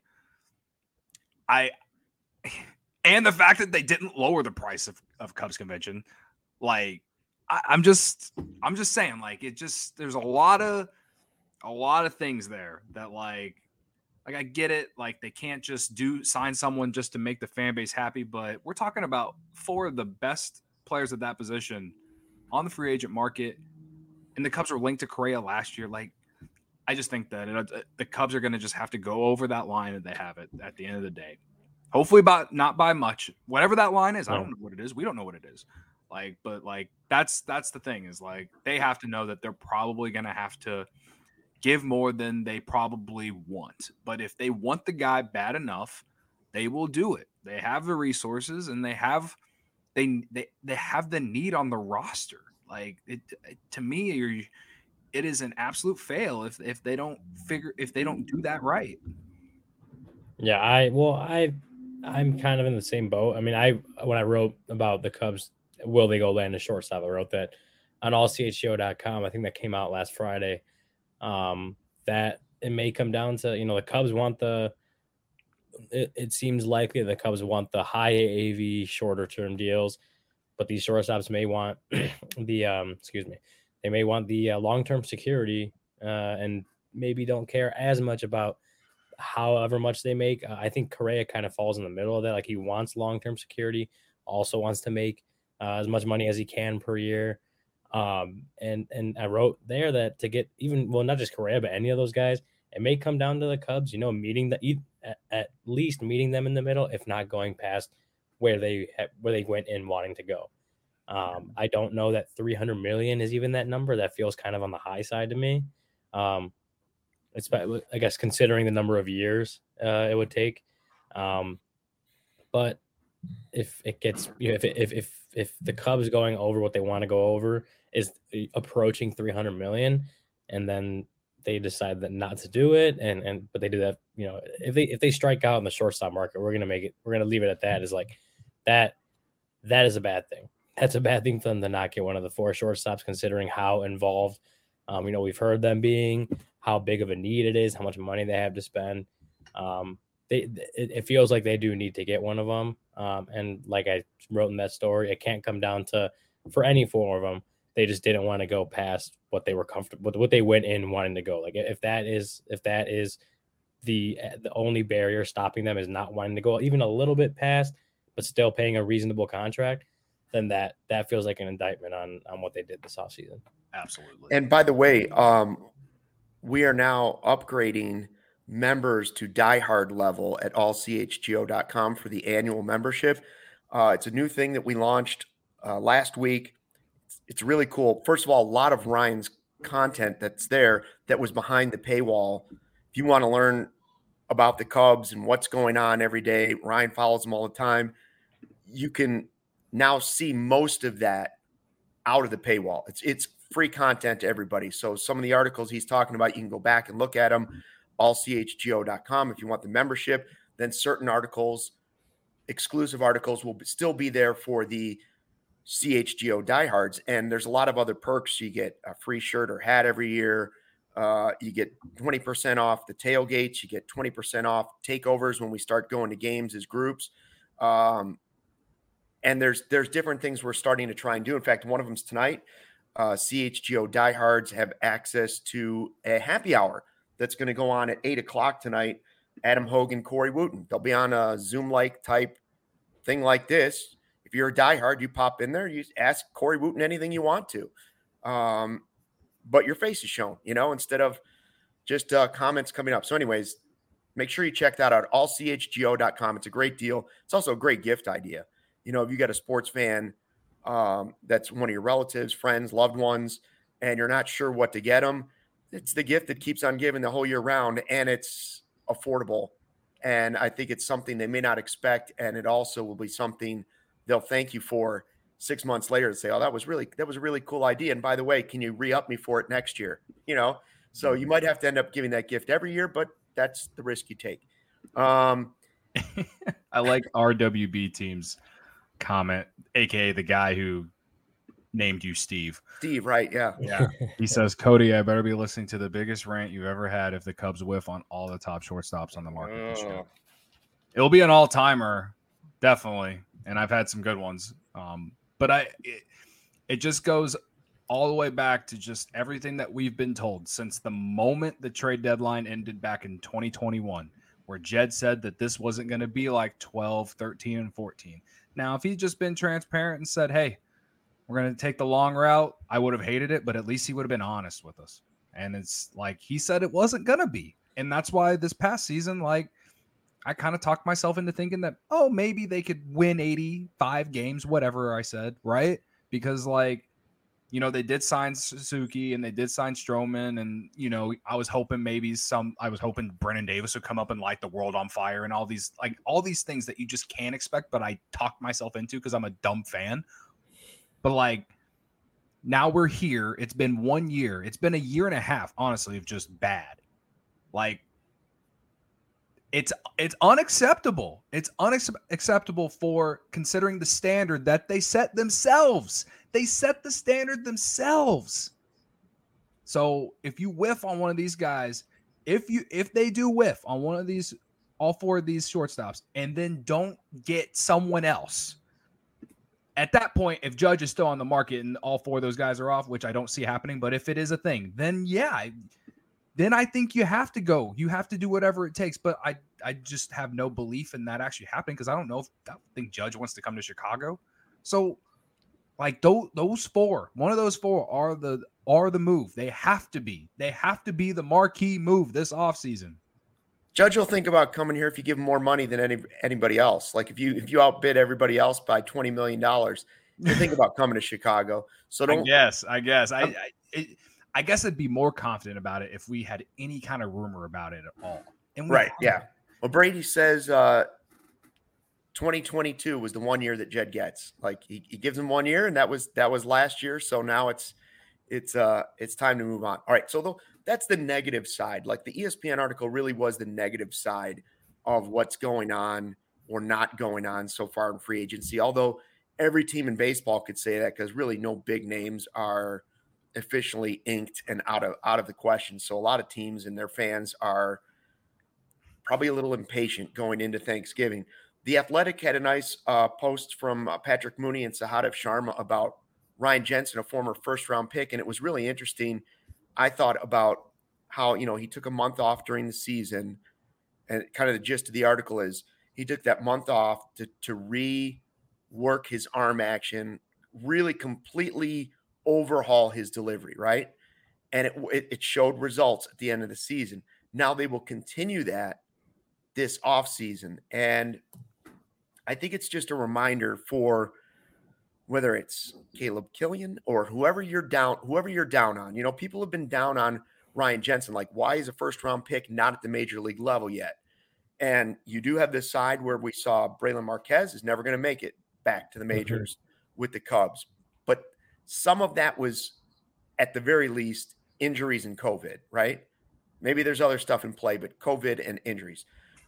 And the fact that they didn't lower the price of Cubs convention, like I'm just saying, like there's a lot of things there that like I get it, like they can't just sign someone just to make the fan base happy, but we're talking about 4 of the best players at that position on the free agent market, and the Cubs were linked to Correa last year. Like, I just think that the Cubs are going to just have to go over that line that they have it at the end of the day. Hopefully, not by much. Whatever that line is, I don't know what it is. We don't know what it is. Like, but like that's the thing is like they have to know that they're probably going to have to give more than they probably want. But if they want the guy bad enough, they will do it. They have the resources and they have the need on the roster. Like to me, it is an absolute fail if they don't do that right. Yeah, I'm kind of in the same boat. I mean, when I wrote about the Cubs, will they go land a shortstop? I wrote that on allchgo.com. I think that came out last Friday. That it may come down to, the Cubs want it seems likely the Cubs want the high AAV shorter term deals, but these shortstops may want they may want the long-term security and maybe don't care as much about however much they make. I think Correa kind of falls in the middle of that. Like, he wants long-term security, also wants to make as much money as he can per year. And I wrote there that to get not just Correa, but any of those guys, it may come down to the Cubs, at least meeting them in the middle, if not going past where they went in wanting to go. I don't know that 300 million is even that number. That feels kind of on the high side to me. It's, I guess, considering the number of years it would take. But if it gets, if the Cubs going over what they want to go over is approaching 300 million, and then they decide that not to do it, but they do that, if they strike out in the shortstop market, we're gonna leave it at that. Is like that is a bad thing. That's a bad thing for them to not get one of the 4 shortstops, considering how involved, we've heard them being, how big of a need it is, how much money they have to spend. It feels like they do need to get one of them. And like I wrote in that story, it can't come down to, for any 4 of them, they just didn't want to go past what they were comfortable with, what they went in wanting to go. Like, if that is the only barrier stopping them is not wanting to go even a little bit past, but still paying a reasonable contract, then that feels like an indictment on what they did this offseason. Absolutely. And by the way, we are now upgrading members to diehard level at allchgo.com for the annual membership. It's a new thing that we launched last week. It's really cool. First of all, a lot of Ryan's content that's there that was behind the paywall. If you want to learn about the Cubs and what's going on every day, Ryan follows them all the time. You can now see most of that out of the paywall. It's free content to everybody. So some of the articles he's talking about, you can go back and look at them. allchgo.com if you want the membership. Then certain articles, exclusive articles, will still be there for the CHGO diehards. And there's a lot of other perks. You get a free shirt or hat every year. You get 20% off the tailgates. You get 20% off takeovers when we start going to games as groups. And there's different things we're starting to try and do. In fact, one of them's tonight. CHGO diehards have access to a happy hour that's going to go on at 8:00 tonight. Adam Hogan, Corey Wooten. They'll be on a Zoom-like type thing like this. If you're a diehard, you pop in there, you ask Corey Wooten anything you want to. But your face is shown, instead of just comments coming up. So anyways, make sure you check that out, allchgo.com. It's a great deal. It's also a great gift idea. If you got a sports fan that's one of your relatives, friends, loved ones, and you're not sure what to get them, it's the gift that keeps on giving the whole year round, and it's affordable. And I think it's something they may not expect, and it also will be something they'll thank you for 6 months later to say, oh, that was a really cool idea. And by the way, can you re-up me for it next year? So you might have to end up giving that gift every year, but that's the risk you take. I like RWB team's comment, aka the guy who named you Steve, right? Yeah. He says, Cody, I better be listening to the biggest rant you've ever had if the Cubs whiff on all the top shortstops on the market this year. It'll be an all-timer, definitely, and I've had some good ones. But it just goes all the way back to just everything that we've been told since the moment the trade deadline ended back in 2021, where Jed said that this wasn't going to be like 12, 13, and 14. Now, if he'd just been transparent and said, hey, we're going to take the long route, I would have hated it, but at least he would have been honest with us. And it's like he said it wasn't going to be. And that's why this past season, like, I kind of talked myself into thinking that, oh, maybe they could win 85 games, whatever I said, right? Because, like, they did sign Suzuki and they did sign Stroman. And, I was hoping Brennan Davis would come up and light the world on fire and all these things that you just can't expect. But I talked myself into because I'm a dumb fan. But, like, Now we're here. It's been 1 year. It's been a year and a half, honestly, of just bad. Like, it's unacceptable. It's unacceptable for considering the standard that they set themselves. They set the standard themselves. So if you whiff on one of these guys, if they do whiff on one of these, all four of these shortstops, and then don't get someone else, at that point, if Judge is still on the market and all four of those guys are off, which I don't see happening, but if it is a thing, then yeah, then I think you have to go. You have to do whatever it takes. But I just have no belief in that actually happening because I don't think Judge wants to come to Chicago. So, like those four, one of those four are the move. They have to be. They have to be the marquee move this offseason. Judge will think about coming here if you give him more money than anybody else. Like if you outbid everybody else by $20 million, you think about coming to Chicago. So don't. I guess. I guess I'd be more confident about it if we had any kind of rumor about it at all. And right, yeah. Well, Brady says 2022 was the 1 year that Jed gets. Like he gives him 1 year, and that was last year. So now it's time to move on. All right, so that's the negative side. Like the ESPN article really was the negative side of what's going on or not going on so far in free agency. Although every team in baseball could say that because really no big names are officially inked and out of the question. So a lot of teams and their fans are probably a little impatient going into Thanksgiving. The Athletic had a nice post from Patrick Mooney and Sahadev Sharma about Ryan Jensen, a former first-round pick, and it was really interesting. I thought about how, he took a month off during the season, and kind of the gist of the article is he took that month off to rework his arm action, really completely overhaul his delivery, right? And it showed results at the end of the season. Now they will continue that this offseason. And I think it's just a reminder for whether it's Caleb Killian or whoever you're down on. People have been down on Ryan Jensen. Like, why is a first-round pick not at the major league level yet? And you do have this side where we saw Braylon Marquez is never going to make it back to the majors with the Cubs. But some of that was, at the very least, injuries and COVID, right? Maybe there's other stuff in play, but COVID and injuries.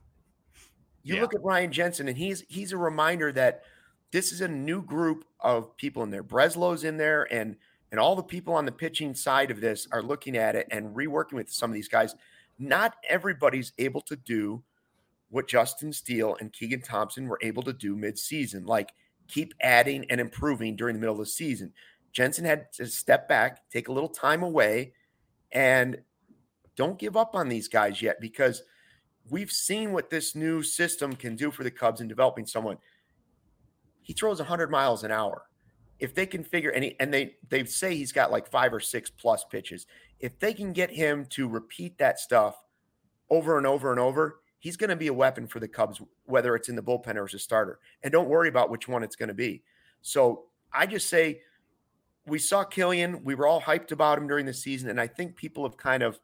You look at Ryan Jensen, and he's a reminder that this is a new group of people in there. Breslow's in there, and all the people on the pitching side of this are looking at it and reworking with some of these guys. Not everybody's able to do what Justin Steele and Keegan Thompson were able to do midseason, like keep adding and improving during the middle of the season. Jensen had to step back, take a little time away, and don't give up on these guys yet, because we've seen what this new system can do for the Cubs in developing someone. He throws 100 miles an hour. If they can figure and they say he's got like 5 or 6 plus pitches. If they can get him to repeat that stuff over and over and over, he's going to be a weapon for the Cubs, whether it's in the bullpen or as a starter. And don't worry about which one it's going to be. So I just say, we saw Killian. We were all hyped about him during the season, and I think people have kind of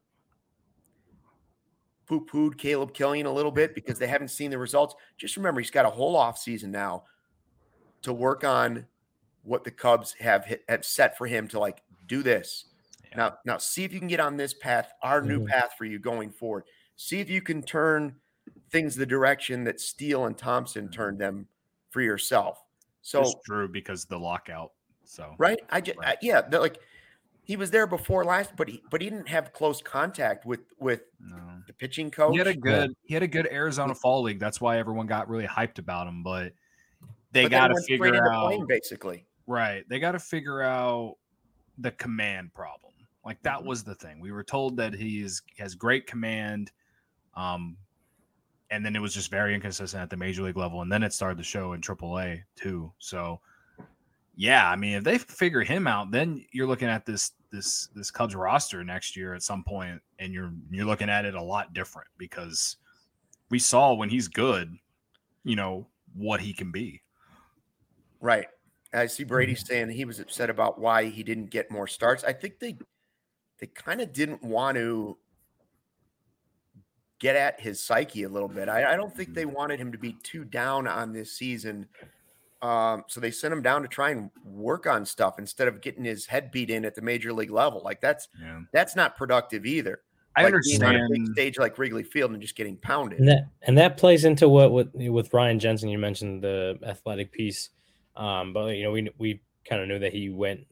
poo-pooed Caleb Killian a little bit because they haven't seen the results. Just remember, he's got a whole offseason now to work on what the Cubs have set for him to, like, do this. Yeah. Now see if you can get on this path, our new path for you going forward. See if you can turn things the direction that Steele and Thompson turned them for yourself. So it's true, because the lockout. So right, like he was there before last, but he didn't have close contact with the pitching coach. He had a good Arizona Fall League. That's why everyone got really hyped about him. But they got to figure out basically. Right, they got to figure out the command problem. Like that was the thing. We were told that he has great command, and then it was just very inconsistent at the major league level, and then it started to show in AAA too. So. Yeah, I mean, if they figure him out, then you're looking at this Cubs roster next year at some point, and you're looking at it a lot different, because we saw when he's good, what he can be. Right. I see Brady saying he was upset about why he didn't get more starts. I think they kind of didn't want to get at his psyche a little bit. I don't think they wanted him to be too down on this season So they sent him down to try and work on stuff instead of getting his head beat in at the major league level. Like that's not productive either. I understand being on a big stage like Wrigley Field and just getting pounded. And that plays into what with Ryan Jensen. You mentioned the athletic piece, but we kind of knew that he went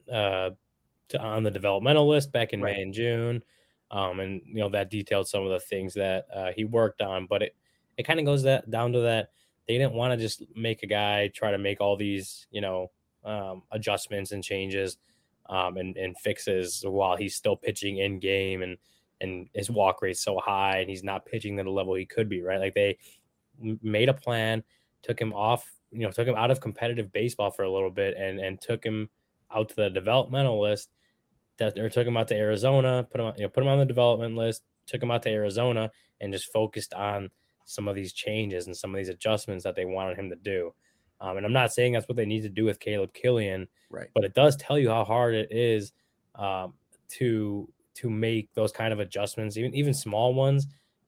on the developmental list back in May and June, and that detailed some of the things that he worked on. But it kind of goes down to that. They didn't want to just make a guy try to make all these, adjustments and changes and fixes while he's still pitching in game and his walk rate's so high and he's not pitching to the level he could be, right? Like they made a plan, took him out of competitive baseball for a little bit and took him out to the developmental list or took him out to Arizona, put him on the development list, took him out to Arizona and just focused on some of these changes and some of these adjustments that they wanted him to do. And I'm not saying that's what they need to do with Caleb Killian, but it does tell you how hard it is to make those kind of adjustments, even small ones,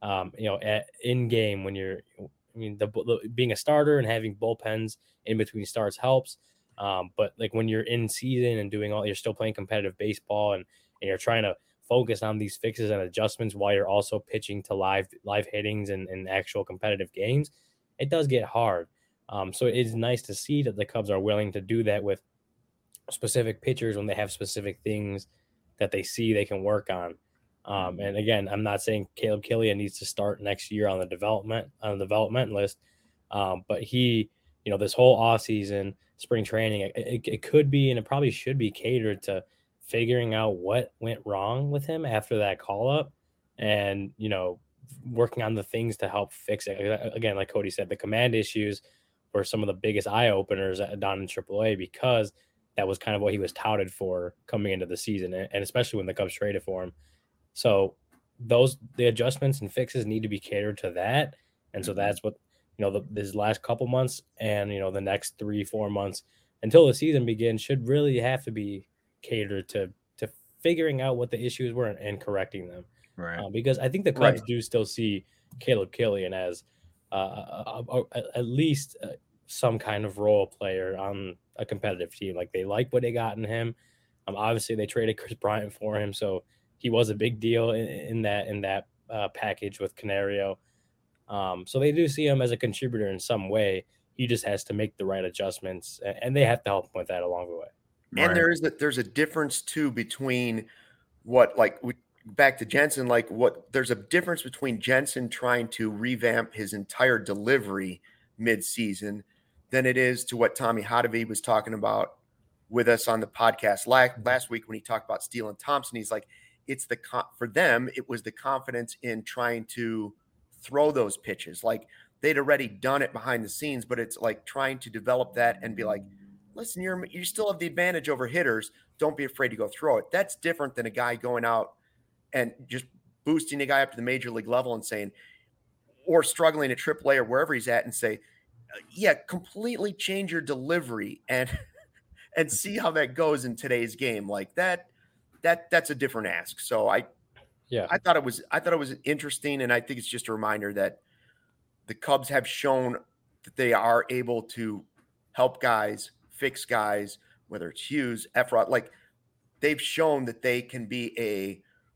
in game when you're, being a starter and having bullpens in between starts helps. But like when you're in season and you're still playing competitive baseball and you're trying to focus on these fixes and adjustments while you're also pitching to live hittings and actual competitive games, it does get hard. So it's nice to see that the Cubs are willing to do that with specific pitchers when they have specific things that they see they can work on. And again, I'm not saying Caleb Killian needs to start next year on the development list. But he, this whole offseason, spring training, it could be, and it probably should be catered to figuring out what went wrong with him after that call up and, working on the things to help fix it. Again, like Cody said, the command issues were some of the biggest eye openers down in AAA because that was kind of what he was touted for coming into the season. And especially when the Cubs traded for him. So the adjustments and fixes need to be catered to that. And so that's what, this last couple months and, the next 3-4 months until the season begins should really have to be catered to figuring out what the issues were and correcting them. Right. Because I think the Cubs do still see Caleb Killian as at least some kind of role player on a competitive team. Like they like what they got in him. Obviously they traded Chris Bryant for him. So he was a big deal in that package with Canario. So they do see him as a contributor in some way. He just has to make the right adjustments, and they have to help him with that along the way. And there's a difference too between back to Jensen, there's a difference between Jensen trying to revamp his entire delivery mid-season than it is to what Tommy Hotovy was talking about with us on the podcast last week when he talked about Steele and Thompson. He's like, for them, it was the confidence in trying to throw those pitches. Like they'd already done it behind the scenes, but it's like trying to develop that and be like, listen, you still have the advantage over hitters. Don't be afraid to go throw it. That's different than a guy going out and just boosting a guy up to the major league level and saying, or struggling at AAA or wherever he's at and say, completely change your delivery and see how that goes in today's game. Like that's a different ask. So I thought it was interesting. And I think it's just a reminder that the Cubs have shown that they are able to help guys, fix guys, whether it's Hughes, Efrod, like they've shown that they can be a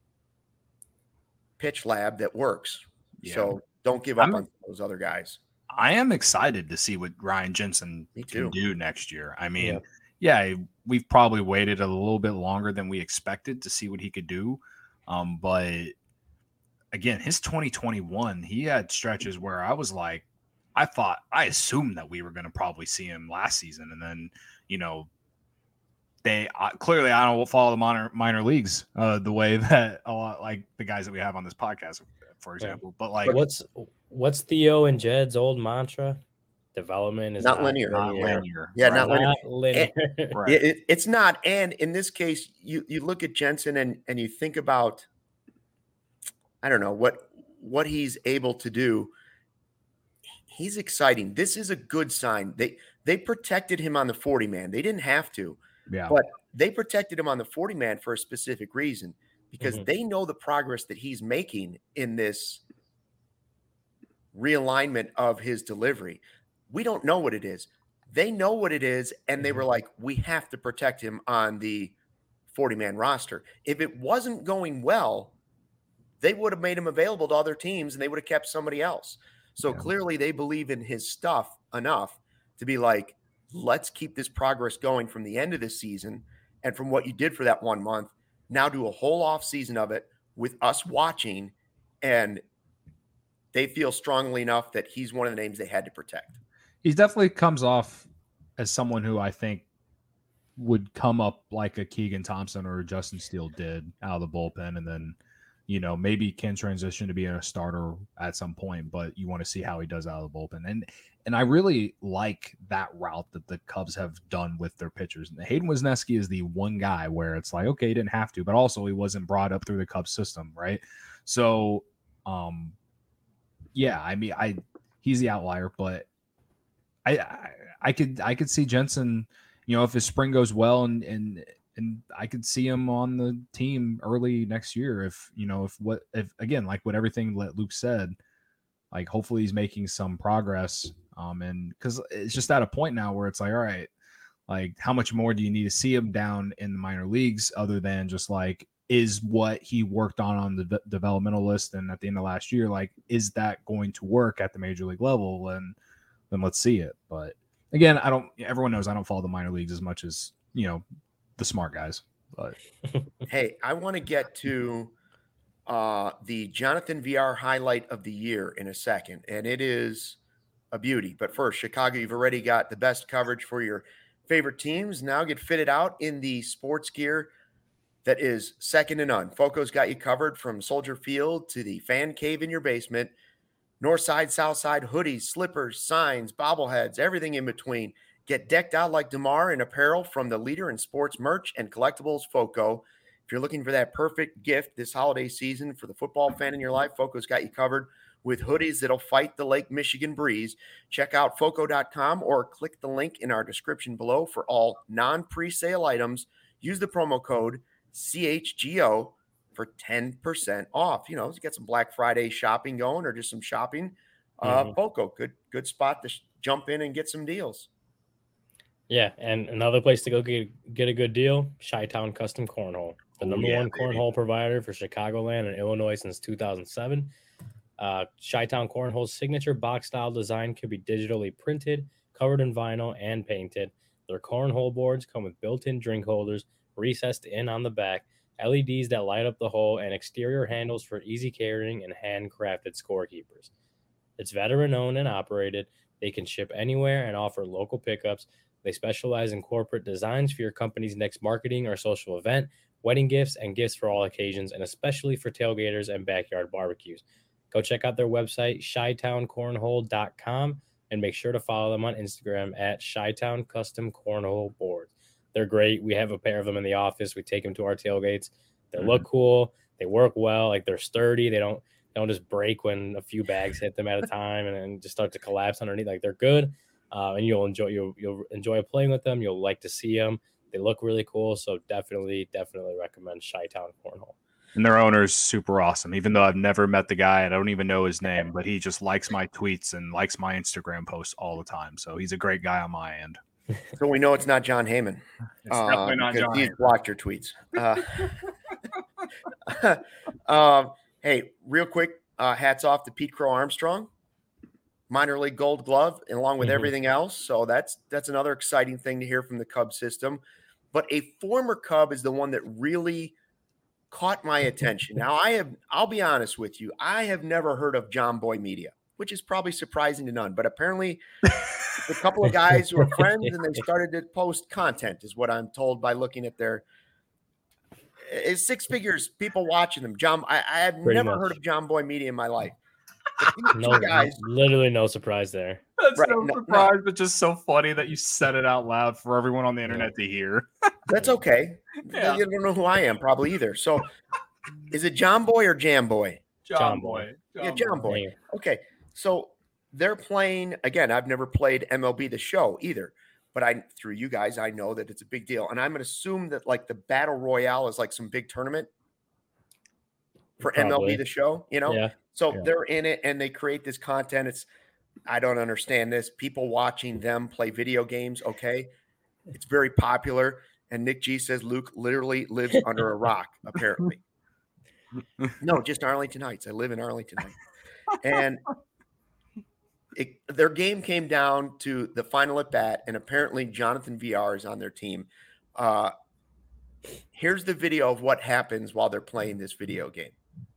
pitch lab that works. Yeah. So don't give up on those other guys. I am excited to see what Ryan Jensen can do next year. I mean, we've probably waited a little bit longer than we expected to see what he could do. But again, his 2021, he had stretches where I was like, I assumed that we were going to probably see him last season. And then, they clearly, I don't follow the minor leagues the way that a lot like the guys that we have on this podcast, for example. But like, what's Theo and Jed's old mantra? Development is not linear. Not linear. Yeah, not linear. Not linear. Right. It's not. And in this case, you look at Jensen and you think about, I don't know what he's able to do. He's exciting. This is a good sign. They protected him on the 40-man. They didn't have to. Yeah. But they protected him on the 40-man for a specific reason, because they know the progress that he's making in this realignment of his delivery. We don't know what it is. They know what it is, and they were like, we have to protect him on the 40-man roster. If it wasn't going well, they would have made him available to other teams, and they would have kept somebody else. So clearly they believe in his stuff enough to be like, let's keep this progress going from the end of the season and from what you did for that 1 month. Now do a whole off season of it with us watching, and they feel strongly enough that he's one of the names they had to protect. He definitely comes off as someone who I think would come up like a Keegan Thompson or a Justin Steele did out of the bullpen, and then, you know, maybe can transition to being a starter at some point, but you want to see how he does out of the bullpen. And I really like that route that the Cubs have done with their pitchers. And Hayden Wesneski is the one guy where it's like, okay, he didn't have to, but also he wasn't brought up through the Cubs system, right? So, yeah, I mean, he's the outlier, but I could see Jensen, you know, if his spring goes well, and I could see him on the team early next year. If, you know, if again, like what everything that Luke said, like hopefully he's making some progress. And because it's just at a point now where it's like, all right, like how much more do you need to see him down in the minor leagues other than just like, is what he worked on the developmental list and at the end of last year, like, is that going to work at the major league level? And then let's see it. But again, everyone knows I don't follow the minor leagues as much as, you know, the smart guys. But hey, I want to get to the Jonathan VR highlight of the year in a second, and it is a beauty. But first, Chicago, you've already got the best coverage for your favorite teams. Now get fitted out in the sports gear that is second to none. Foco's got you covered from Soldier Field to the fan cave in your basement. North side, south side, hoodies, slippers, signs, bobbleheads, everything in between. Get decked out like DeMar in apparel from the leader in sports merch and collectibles, Foco. If you're looking for that perfect gift this holiday season for the football fan in your life, Foco's got you covered with hoodies that'll fight the Lake Michigan breeze. Check out Foco.com or click the link in our description below for all non-presale items. Use the promo code CHGO for 10% off. You know, you get some Black Friday shopping going or just some shopping. Foco, good spot to jump in and get some deals. Yeah, and another place to go get a good deal, Chi-Town Custom Cornhole, the number one cornhole provider for Chicagoland and Illinois since 2007. Chi-Town Cornhole's signature box-style design can be digitally printed, covered in vinyl, and painted. Their cornhole boards come with built-in drink holders, recessed in on the back, LEDs that light up the hole, and exterior handles for easy carrying and handcrafted scorekeepers. It's veteran-owned and operated. They can ship anywhere and offer local pickups. They specialize in corporate designs for your company's next marketing or social event, wedding gifts, and gifts for all occasions, and especially for tailgaters and backyard barbecues. Go check out their website, ChiTownCornhole.com, and make sure to follow them on Instagram at Chi-Town Custom Cornhole Boards. They're great. We have a pair of them in the office. We take them to our tailgates. They look cool. They work well. Like, they're sturdy. They don't just break when a few bags hit them at a time and just start to collapse underneath. Like, they're good. And you'll enjoy playing with them. You'll like to see them. They look really cool. So definitely recommend Chi-Town Cornhole. And their owner's super awesome. Even though I've never met the guy and I don't even know his name, but he just likes my tweets and likes my Instagram posts all the time. So he's a great guy on my end. So we know it's not John Heyman. It's definitely not John. He's blocked your tweets. Hey, real quick, hats off to Pete Crow Armstrong, minor league Gold Glove, and along with everything else. So that's another exciting thing to hear from the Cubs system. But a former Cub is the one that really caught my attention. Now, I'll be honest with you, I have never heard of John Boy Media, which is probably surprising to none. But apparently, a couple of guys who are friends and they started to post content, is what I'm told by looking at their. It's six figures, people watching them. John, I had never heard of John Boy Media in my life. No, guys, literally no surprise there. That's right, no surprise, but just so funny that you said it out loud for everyone on the internet to hear. That's okay. Yeah. You don't know who I am, probably either. So, is it John Boy or Jam Boy? John Boy. John Boy. Okay, so they're playing again. I've never played MLB The Show either. But through you guys, I know that it's a big deal. And I'm going to assume that like the Battle Royale is like some big tournament for MLB The Show, you know? Yeah. So they're in it and they create this content. It's I don't understand this. People watching them play video games, okay? It's very popular. And Nick G says Luke literally lives under a rock, apparently. No, just Arlington Heights. I live in Arlington Heights. And their game came down to the final at bat, and apparently Jonathan VR is on their team. Here's the video of what happens while they're playing this video game.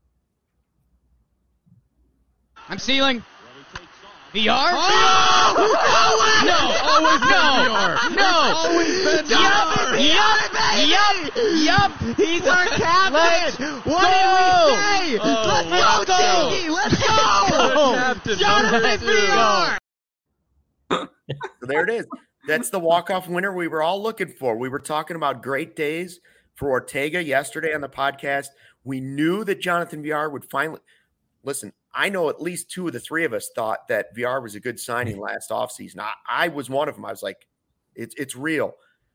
I'm stealing. VR? Oh! No! Always been VR. No! Always been VR. Yup. He's our captain. What did we say? Let's go, Tiggy. Let's go. Jonathan VR. So there it is. That's the walk-off winner we were all looking for. We were talking about great days for Ortega yesterday on the podcast. We knew that Jonathan VR would finally – listen, I know at least 2 of the 3 of us thought that VR was a good signing last offseason. I was one of them. I was like, it's real.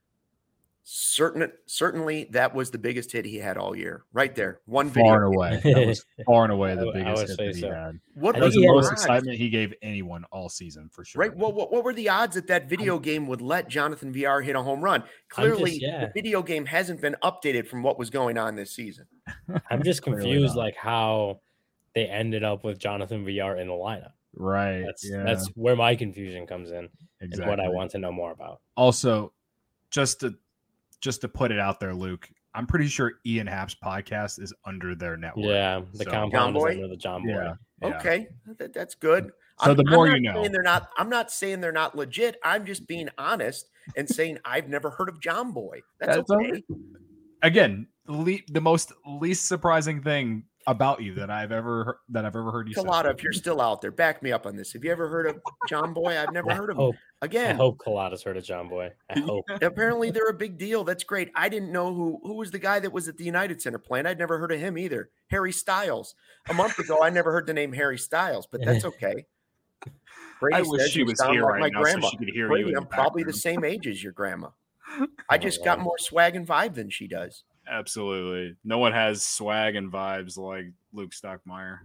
Certainly that was the biggest hit he had all year. Right there. One video. Far and away. That was far and away the biggest hit that he had. What was the most excitement he gave anyone all season, for sure. Right. Well, what were the odds that video game would let Jonathan VR hit a home run? Clearly, the video game hasn't been updated from what was going on this season. I'm just confused, like how they ended up with Jonathan VR in the lineup. Right. That's where my confusion comes in. Exactly. And what I want to know more about. Also, just to put it out there, Luke, I'm pretty sure Ian Happ's podcast is under their network. Yeah, the compound is under the John Boy. Yeah. Okay, that's good. So the more you know. I'm not saying they're not legit. I'm just being honest and saying I've never heard of John Boy. That's okay. Again, the most least surprising thing about you that I've ever heard you say. Collada, if you're still out there, back me up on this. Have you ever heard of John Boy? I've never heard of him. Again, I hope Collada's heard of John Boy. I hope. Apparently they're a big deal. That's great. I didn't know who was the guy that was at the United Center playing. I'd never heard of him either. Harry Styles. A month ago, I never heard the name Harry Styles, but that's okay. Brady, I wish she was here right now so she could hear Brady, you. I'm probably the same age as your grandma. I just got more swag and vibe than she does. Absolutely. No one has swag and vibes like Luke Stockmeyer.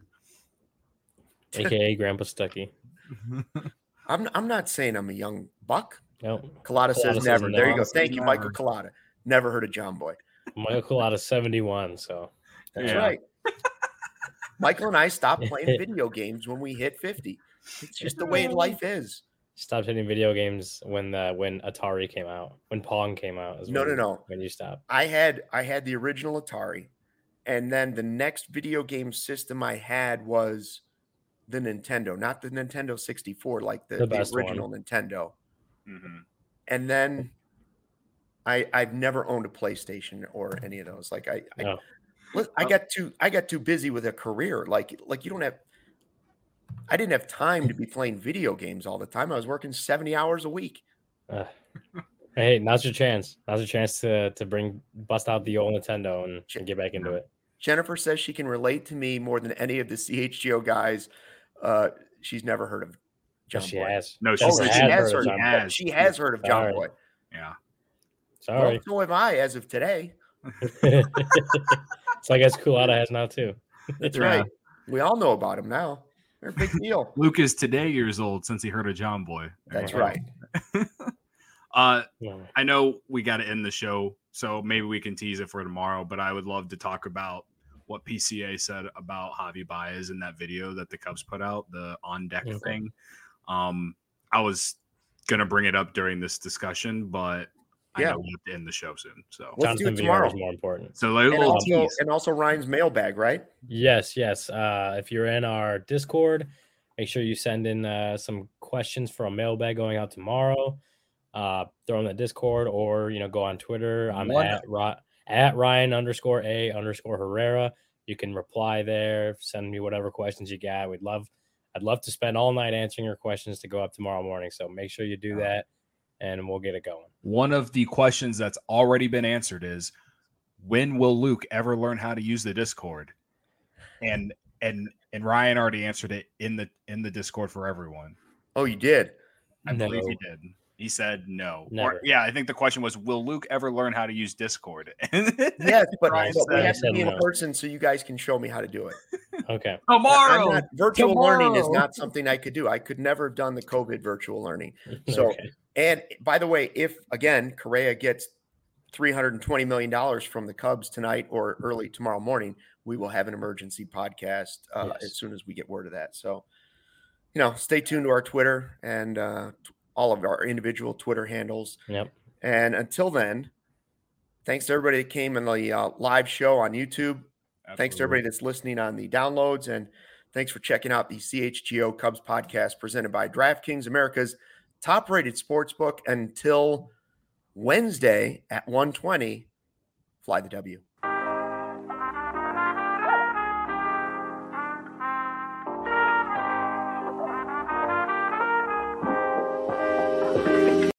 AKA Grandpa Stucky. I'm not saying I'm a young buck. No. Collada says never. There you go. Thank you, Michael Collada. Never heard of John Boy. Michael Collada's 71, so that's right. Michael and I stopped playing video games when we hit 50. It's just the way life is. Stopped hitting video games when Atari came out, when Pong came out. No. When you stopped, I had the original Atari, and then the next video game system I had was the Nintendo, not the Nintendo 64, like the original one. Nintendo. Mm-hmm. And then I've never owned a PlayStation or any of those. Like I got too busy with a career. Like you don't have. I didn't have time to be playing video games all the time. I was working 70 hours a week. Hey, now's your chance. Now's your chance to bust out the old Nintendo and get back into it. Jennifer says she can relate to me more than any of the CHGO guys. She's never heard of John Boy. Has. No, she has heard of John Boy. Yeah. Sorry. Well, so have I as of today. So I guess Collada has now too. That's right. We all know about him now. They're a big deal. Luke is today years old since he heard of John Boy. That's right. I know we got to end the show, so maybe we can tease it for tomorrow, but I would love to talk about what PCA said about Javi Baez in that video that the Cubs put out, the on-deck thing. I was going to bring it up during this discussion, but I know we have to end the show soon. So let's do it tomorrow. Is more important. So and also Ryan's mailbag, right? Yes. If you're in our Discord, make sure you send in some questions for a mailbag going out tomorrow. Throw in the Discord or go on Twitter. I'm at Ryan_A_Herrera. You can reply there. Send me whatever questions you got. I'd love to spend all night answering your questions to go up tomorrow morning. So make sure you do that. And we'll get it going. One of the questions that's already been answered is, when will Luke ever learn how to use the Discord? And Ryan already answered it in the Discord for everyone. Oh, you did? I believe he did. He said no. Never. I think the question was, will Luke ever learn how to use Discord? Yes, but we have to be in person so you guys can show me how to do it. Okay. Tomorrow. Virtual learning is not something I could do. I could never have done the COVID virtual learning. So, and by the way, if again, Correa gets $320 million from the Cubs tonight or early tomorrow morning, we will have an emergency podcast as soon as we get word of that. So, stay tuned to our Twitter and all of our individual Twitter handles. Yep. And until then, thanks to everybody that came in the live show on YouTube. Absolutely. Thanks to everybody that's listening on the downloads. And thanks for checking out the CHGO Cubs podcast presented by DraftKings, America's top-rated sportsbook. Until Wednesday at 1:20, fly the W.